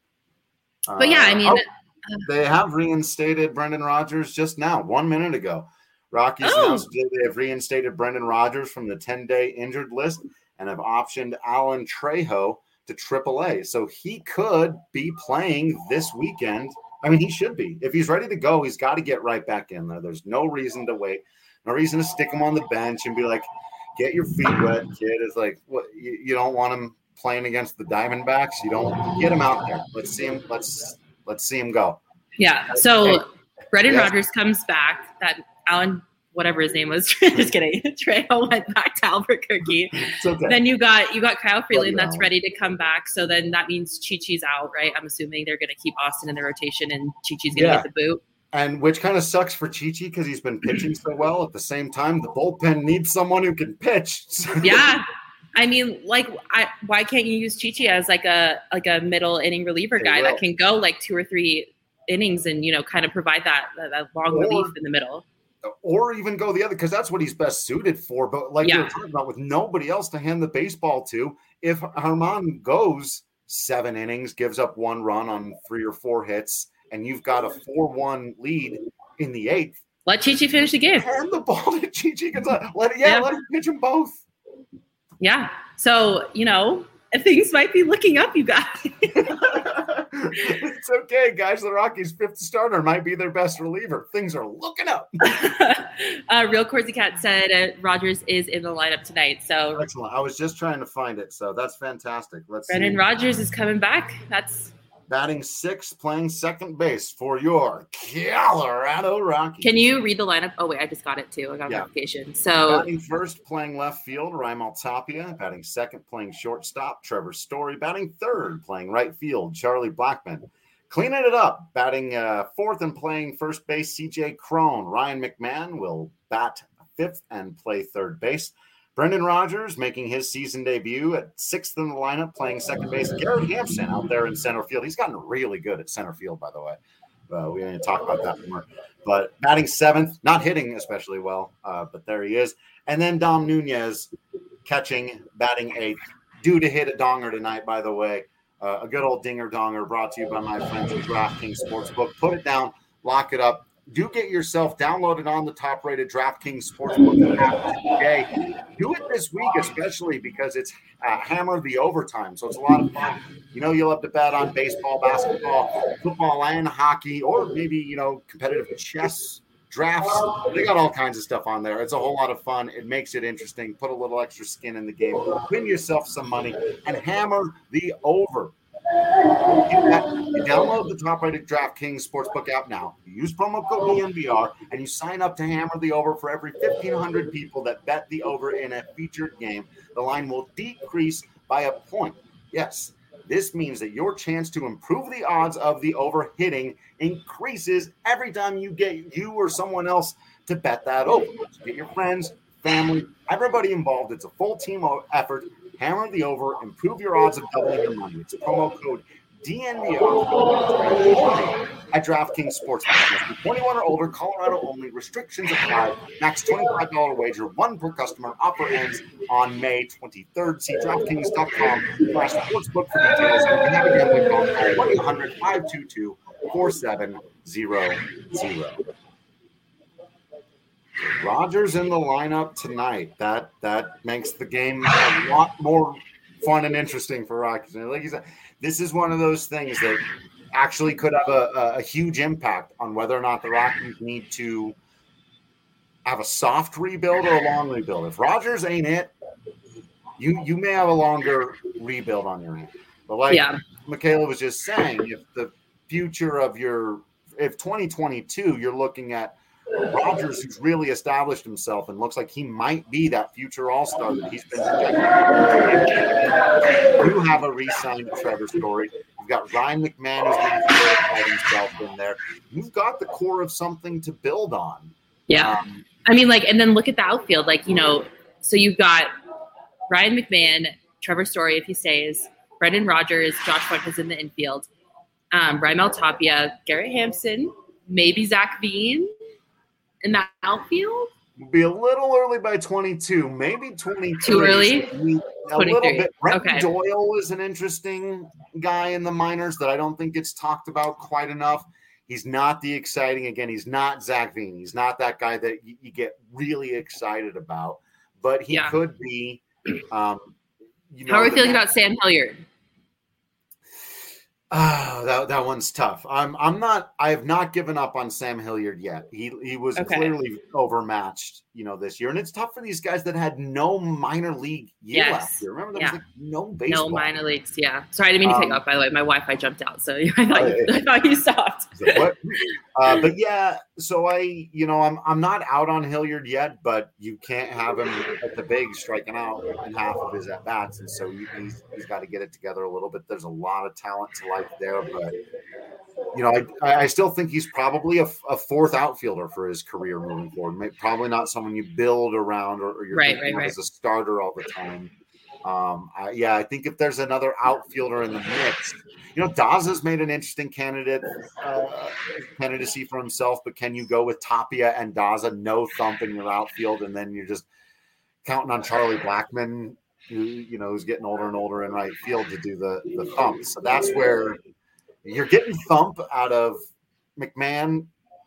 Uh, but yeah, I mean, oh, they have reinstated Brendan Rodgers just now, one minute ago. Rockies oh. announced they have reinstated Brendan Rodgers from the ten-day injured list and have optioned Alan Trejo to triple A. So he could be playing this weekend. I mean, he should be. If he's ready to go, he's got to get right back in there. There's no reason to wait. No reason to stick him on the bench and be like, get your feet wet, kid. It's like, what? You, you don't want him playing against the Diamondbacks. You don't get him out there. Let's see him. Let's let's see him go. Yeah. So hey, Brendan yes. Rodgers comes back. That Alan, whatever his name was, just kidding. Trejo went back to Albuquerque. Okay. Then you got you got Kyle Freeland that's ready to come back. So then that means Chi-Chi's out, right? I'm assuming they're going to keep Austin in the rotation and Chi-Chi's going to yeah. get the boot. And which kind of sucks for Chi-Chi because he's been pitching so well. At the same time, the bullpen needs someone who can pitch. Yeah. I mean, like, I, why can't you use Chi-Chi as like a like a middle inning reliever guy that can go like two or three innings and, you know, kind of provide that, that, that long or, relief in the middle? Or even go the other, because that's what he's best suited for. But like yeah. we were talking about, with nobody else to hand the baseball to, if Germán goes seven innings, gives up one run on three or four hits, and you've got a four one lead in the eighth. Let Chi-Chi finish the game. Hand the ball to Chi-Chi Gonzalez. Let it, yeah, yeah, let him pitch them both. Yeah. So, you know, things might be looking up, you guys. It's okay, guys. The Rockies' fifth starter might be their best reliever. Things are looking up. uh, Real Corsi Cat said uh, Rodgers is in the lineup tonight. So excellent. I was just trying to find it. So that's fantastic. Let's Brendan see. Rodgers is coming back. That's batting sixth, playing second base for your Colorado Rockies. Can you read the lineup? Oh, wait, I just got it too. I got yeah. notification. So batting first, playing left field, Raimel Tapia. Batting second, playing shortstop, Trevor Story. Batting third, playing right field, Charlie Blackmon. Cleaning it up, batting uh, fourth and playing first base, C J Cron. Ryan McMahon will bat fifth and play third base. Brendan Rodgers making his season debut at sixth in the lineup, playing second base. Garrett Hampson out there in center field. He's gotten really good at center field, by the way. Uh, we didn't talk about that more. But batting seventh, not hitting especially well, uh, but there he is. And then Dom Nunez catching, batting eighth. Due to hit a donger tonight, by the way. Uh, a good old dinger donger brought to you by my friends at DraftKings Sportsbook. Put it down, lock it up. Do get yourself downloaded on the top-rated DraftKings Sportsbook app today. Do it this week, especially because it's uh, Hammer the Overtime, so it's a lot of fun. You know, you'll have to bet on baseball, basketball, football, and hockey, or maybe, you know, competitive chess drafts. They got all kinds of stuff on there. It's a whole lot of fun. It makes it interesting. Put a little extra skin in the game. Win yourself some money and hammer the over. You download the top-rated DraftKings Sportsbook app now. You use promo code D N V R, and you sign up to hammer the over for every fifteen hundred people that bet the over in a featured game. The line will decrease by a point. Yes, this means that your chance to improve the odds of the over hitting increases every time you get you or someone else to bet that over. So get your friends, family, everybody involved. It's a full team effort. Hammer the over, improve your odds of doubling your money. It's promo code D N V R at DraftKings Sportsbook. twenty-one or older, Colorado only. Restrictions apply. Max twenty-five dollars wager, one per customer. Offer ends on May twenty-third. See DraftKings.com slash sportsbook for details. And if you have a gambling problem, call one eight hundred five two two four seven zero zero. Rogers in the lineup tonight. That that makes the game a lot more fun and interesting for Rockies. And like you said, this is one of those things that actually could have a, a, a huge impact on whether or not the Rockies need to have a soft rebuild or a long rebuild. If Rogers ain't it, you you may have a longer rebuild on your hand. But like yeah. Michaela was just saying, if the future of your if twenty twenty-two you're looking at Rogers, who's really established himself and looks like he might be that future all-star that he's been projected. You have a re-signed Trevor Story. You've got Ryan McMahon who's going to verify himself in there. You've got the core of something to build on. Yeah. Um, I mean, like, and then look at the outfield. Like, you know, so you've got Ryan McMahon, Trevor Story if he stays, Brendan Rodgers, Josh Fuentes in the infield, um, Raimel Tapia, Garrett Hampson, maybe Zach Veen in that outfield. Will be a little early by twenty-two, maybe twenty-three. Too early? A little bit. Brenton okay. Doyle is an interesting guy in the minors that I don't think gets talked about quite enough. He's not the exciting, again, he's not Zach Veen. He's not that guy that you, you get really excited about, but he yeah. could be. Um, you know, How are we feeling about Sam Hilliard? Oh, that that one's tough. I'm I'm not. I have not given up on Sam Hilliard yet. He he was okay. clearly overmatched, you know, this year, and it's tough for these guys that had no minor league year yes. last year. Remember, there yeah. was like no baseball, no minor leagues. Yeah, sorry, I didn't mean to um, take off. By the way, my Wi-Fi jumped out, so I thought you, I thought you stopped. What? Uh, but yeah, so I, you know, I'm I'm not out on Hilliard yet, but you can't have him at the big striking out in half of his at bats, and so he's he's got to get it together a little bit. There's a lot of talent to like there, but you know, I I still think he's probably a, a fourth outfielder for his career moving forward. Maybe, probably not someone you build around or, or you're right, thinking right, right. as a starter all the time. Um, I, yeah, I think if there's another outfielder in the mix, you know, Daza's made an interesting candidate uh, candidacy for himself, but can you go with Tapia and Daza, no thump in your outfield, and then you're just counting on Charlie Blackmon, who, you know, who's getting older and older in right field to do the the thump. So that's where you're getting thump out of McMahon,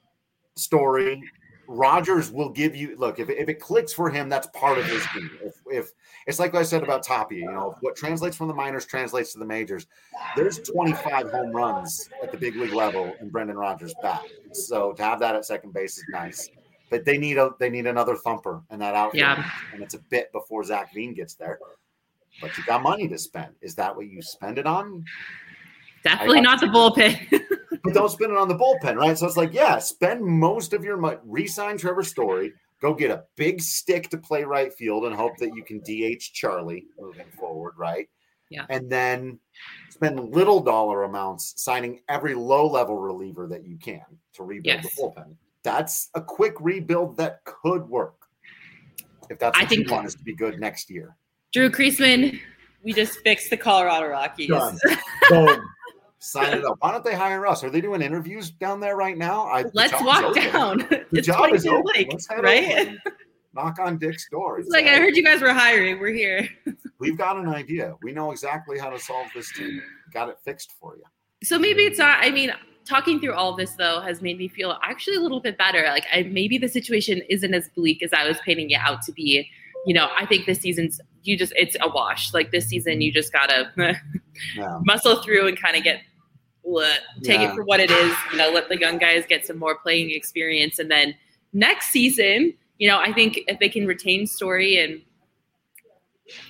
Story. Rogers will give you look if, if it clicks for him, that's part of his game. If, if it's like I said about Tapia, you know, what translates from the minors translates to the majors. There's twenty-five home runs at the big league level in Brendan Rodgers' bat. So to have that at second base is nice. But they need a they need another thumper in that outfield, yeah. and it's a bit before Zach Veen gets there. But you got money to spend. Is that what you spend it on? Definitely not the bullpen. But don't spend it on the bullpen, right? So it's like, yeah, spend most of your money. Re-sign Trevor Story. Go get a big stick to play right field and hope that you can D H Charlie moving forward, right? Yeah. And then spend little dollar amounts signing every low-level reliever that you can to rebuild yes. the bullpen. That's a quick rebuild that could work if that's what I think you want us to be good next year. Drew Creasman, we just fixed the Colorado Rockies. Done. Boom. Sign it up. Why don't they hire us? Are they doing interviews down there right now? I, Let's walk open. down. The it's job is open. Lake, Let's head right? over. Knock on Dick's door. It's like, I heard you guys were hiring. We're here. We've got an idea. We know exactly how to solve this team. Got it fixed for you. So maybe it's not, I mean, talking through all of this, though, has made me feel actually a little bit better. Like, I, maybe the situation isn't as bleak as I was painting it out to be. You know, I think this season's, you just, it's a wash. Like, this season, you just got to yeah. muscle through and kind of get, let, take yeah. it for what it is. You know, let the young guys get some more playing experience. And then next season, you know, I think if they can retain Story and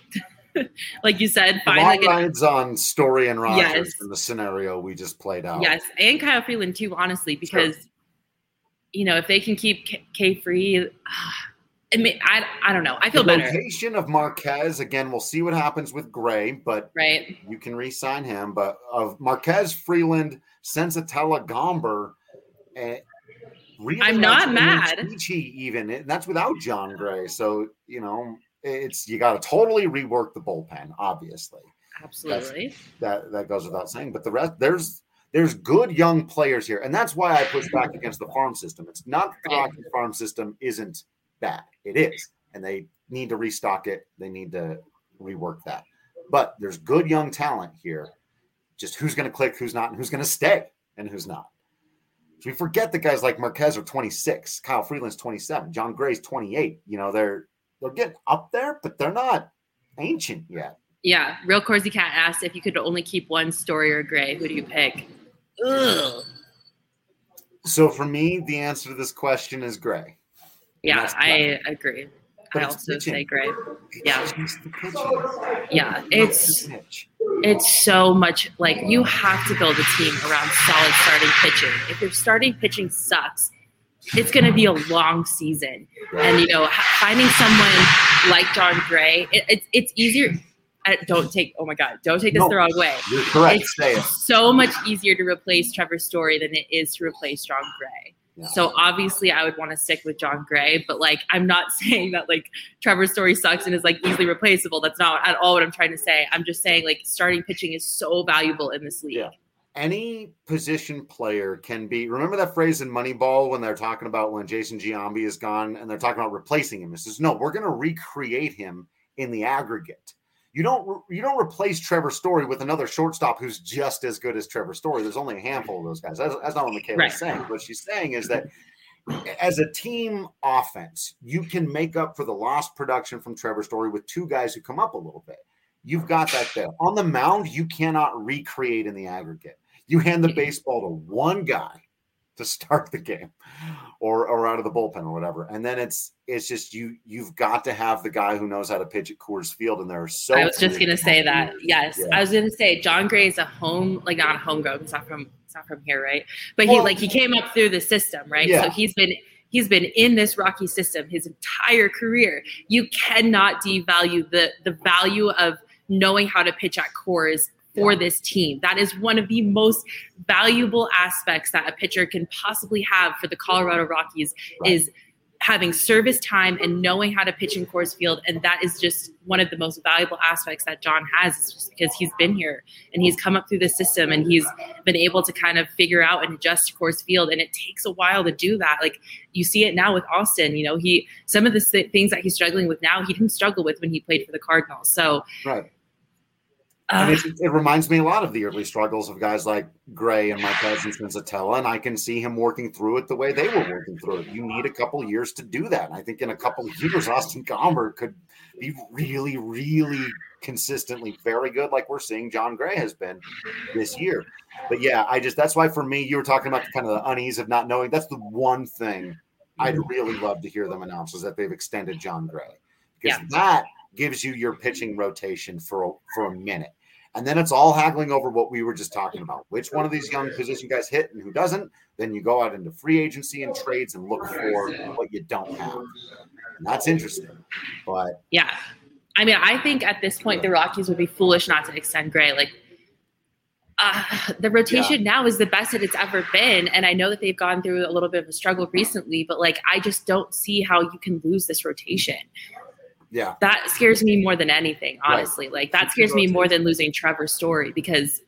like you said, The find long like an, rides on Story and Rogers Yes. in the scenario we just played out. yes, and Kyle Freeland too, honestly, because Sure. you know if they can keep K, K free, I mean, I I don't know. I feel the better, rotation of Marquez, again, we'll see what happens with Gray, but right? you can re-sign him. But of Marquez, Freeland, Sensatella, Gomber, and really I'm not and mad. Chichi even, and that's without John Gray. So, you know, it's you got to totally rework the bullpen, obviously. Absolutely. That's, that that goes without saying. But the rest, there's there's good young players here, and that's why I push back against the farm system. It's not that the Right. Rockies farm system isn't bad. It is, and they need to restock it. They need to rework that. But there's good young talent here. Just who's going to click, who's not, and who's going to stay, and who's not. We forget that guys like Marquez are twenty-six, Kyle Freeland's twenty-seven, John Gray's twenty-eight. You know, they're they're getting up there, but they're not ancient yet. Yeah, Real Corsey Cat asked if you could only keep one Story or Gray. Who do you pick? Ugh. So for me, the answer to this question is Gray. Yeah, that's I agree. But I it's also pitching. say Gray. Yeah, It's just the pitching. yeah. Not It's the pitch. it's so much like you have to build a team around solid starting pitching. If your starting pitching sucks, it's going to be a long season. And you know, ha- finding someone like John Gray, it, it's it's easier. I, don't take oh my god, don't take this No. the wrong way. You're correct. It's Say it. so much easier to replace Trevor Story than it is to replace John Gray. Yeah. So obviously I would want to stick with John Gray, but like I'm not saying that like Trevor Story sucks and is like easily replaceable. That's not at all what I'm trying to say. I'm just saying like starting pitching is so valuable in this league. Yeah. Any position player can be. Remember that phrase in Moneyball when they're talking about when Jason Giambi is gone and they're talking about replacing him. It says, no, we're going to recreate him in the aggregate. You don't you don't replace Trevor Story with another shortstop who's just as good as Trevor Story. There's only a handful of those guys. That's, that's not what Michaela's Right. saying. What she's saying is that as a team offense, you can make up for the lost production from Trevor Story with two guys who come up a little bit. You've got that there. On the mound, you cannot recreate in the aggregate. You hand the baseball to one guy to start the game or, or out of the bullpen or whatever. And then it's it's just you you've got to have the guy who knows how to pitch at Coors Field. And there are so I was just few. gonna say that. Yes. Yeah. I was gonna say John Gray is a home like not a homegrown, he's not from he's not from here, right? But he Well, like he came up through the system, right? Yeah. So he's been he's been in this Rocky system his entire career. You cannot devalue the the value of knowing how to pitch at Coors for Yeah. this team. That is one of the most valuable aspects that a pitcher can possibly have for the Colorado Rockies Right. is having service time and knowing how to pitch in Coors Field. And that is just one of the most valuable aspects that John has. It's just because he's been here and he's come up through the system and he's been able to kind of figure out and adjust to Coors Field. And it takes a while to do that. Like you see it now with Austin, you know, he, some of the th- things that he's struggling with now, he didn't struggle with when he played for the Cardinals. So, Right. uh, And it, it reminds me a lot of the early struggles of guys like Gray and Marquez and Sensatella, and I can see him working through it the way they were working through it. You need a couple years to do that. And I think in a couple of years, Austin Gomber could be really, really consistently very good, like we're seeing John Gray has been this year. But yeah, I just that's why for me, you were talking about the kind of the unease of not knowing. That's the one thing I'd really love to hear them announce is that they've extended John Gray because Yeah. that gives you your pitching rotation for a, for a minute. And then it's all haggling over what we were just talking about. Which one of these young position guys hit and who doesn't? Then you go out into free agency and trades and look for what you don't have. And that's interesting. But yeah. I mean, I think at this point, the Rockies would be foolish not to extend Gray. Like, uh, the rotation now is the best that it's ever been. And I know that they've gone through a little bit of a struggle recently, but like, I just don't see how you can lose this rotation. yeah, That scares me more than anything, honestly. Right. Like, that scares me more than losing Trevor Story because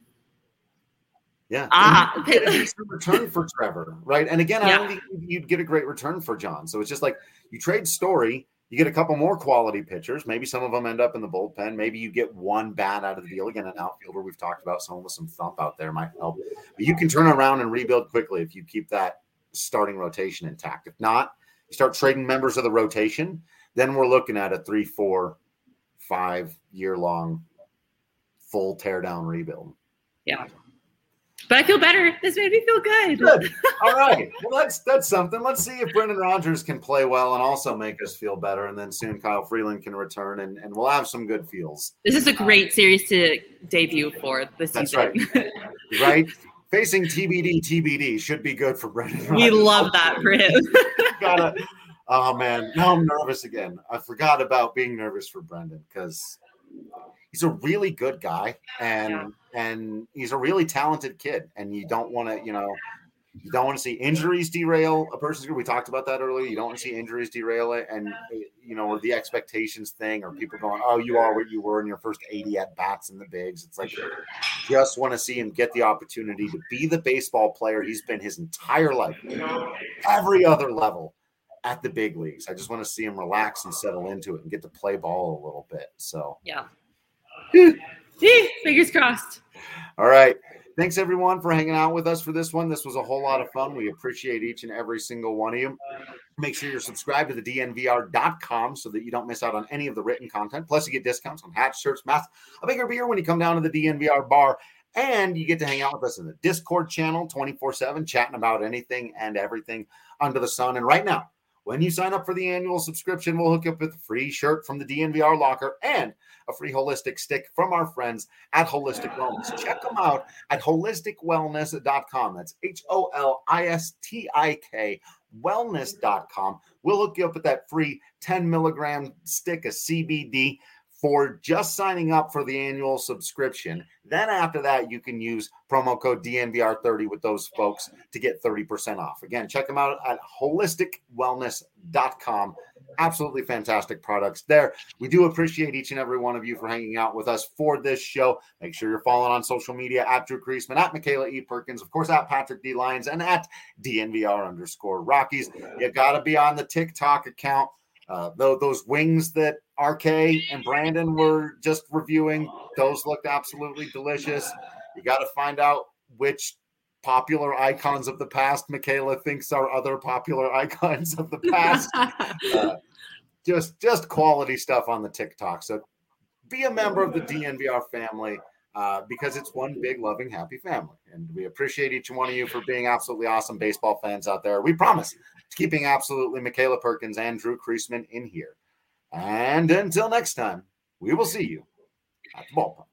yeah. Ah. And you get a decent return for Trevor, right? And again, I Yeah. don't think you'd get a great return for John. So it's just like you trade Story, you get a couple more quality pitchers. Maybe some of them end up in the bullpen. Maybe you get one bat out of the deal. Again, an outfielder we've talked about, someone with some thump out there might help. But you can turn around and rebuild quickly if you keep that starting rotation intact. If not, you start trading members of the rotation, then we're looking at a three, four, five year long full tear down rebuild. Yeah. But I feel better. This made me feel good. Good. All right. Well, that's that's something. Let's see if Brendan Rodgers can play well and also make us feel better. And then soon Kyle Freeland can return and, and we'll have some good feels. This is a great series to debut for this That's season. right. Right? Facing T B D, T B D should be good for Brendan Rodgers. We love that for him. Gotta, oh, man. Now I'm nervous again. I forgot about being nervous for Brendan because he's a really good guy and yeah. and he's a really talented kid. And you don't want to, you know, you don't want to see injuries derail a person's career. We talked about that earlier. You don't want to see injuries derail it. And, you know, or the expectations thing or people going, oh, you are what you were in your first eighty at-bats in the bigs. It's like just want to see him get the opportunity to be the baseball player he's been his entire life, every other level at the big leagues. I just want to see him relax and settle into it and get to play ball a little bit. So, yeah. Fingers crossed. All right. Thanks, everyone, for hanging out with us for this one. This was a whole lot of fun. We appreciate each and every single one of you. Make sure you're subscribed to the D N V R dot com so that you don't miss out on any of the written content. Plus, you get discounts on hats, shirts, masks, a bigger beer when you come down to the D N V R bar. And you get to hang out with us in the Discord channel twenty-four seven, chatting about anything and everything under the sun. And right now, when you sign up for the annual subscription, we'll hook you up with a free shirt from the D N V R locker and a free holistic stick from our friends at Holistic Wellness. Check them out at holistic wellness dot com. That's H O L I S T I K wellness dot com. We'll hook you up with that free ten milligram stick of C B D for just signing up for the annual subscription. Then after that, you can use promo code D N V R thirty with those folks to get thirty percent off. Again, check them out at holistic wellness dot com. Absolutely fantastic products there. We do appreciate each and every one of you for hanging out with us for this show. Make sure you're following on social media at Drew Creasman, at Michaela E. Perkins, of course, at Patrick D. Lyons, and at D N V R underscore Rockies. You got to be on the TikTok account. Uh, though those wings that R K and Brandon were just reviewing, those looked absolutely delicious. You got to find out which popular icons of the past Michaela thinks are other popular icons of the past. uh, just, just quality stuff on the TikTok. So be a member of the D N V R family uh, because it's one big, loving, happy family. And we appreciate each one of you for being absolutely awesome baseball fans out there. We promise keeping absolutely Michaela Perkins and Drew Creasman in here. And until next time, we will see you at the ballpark.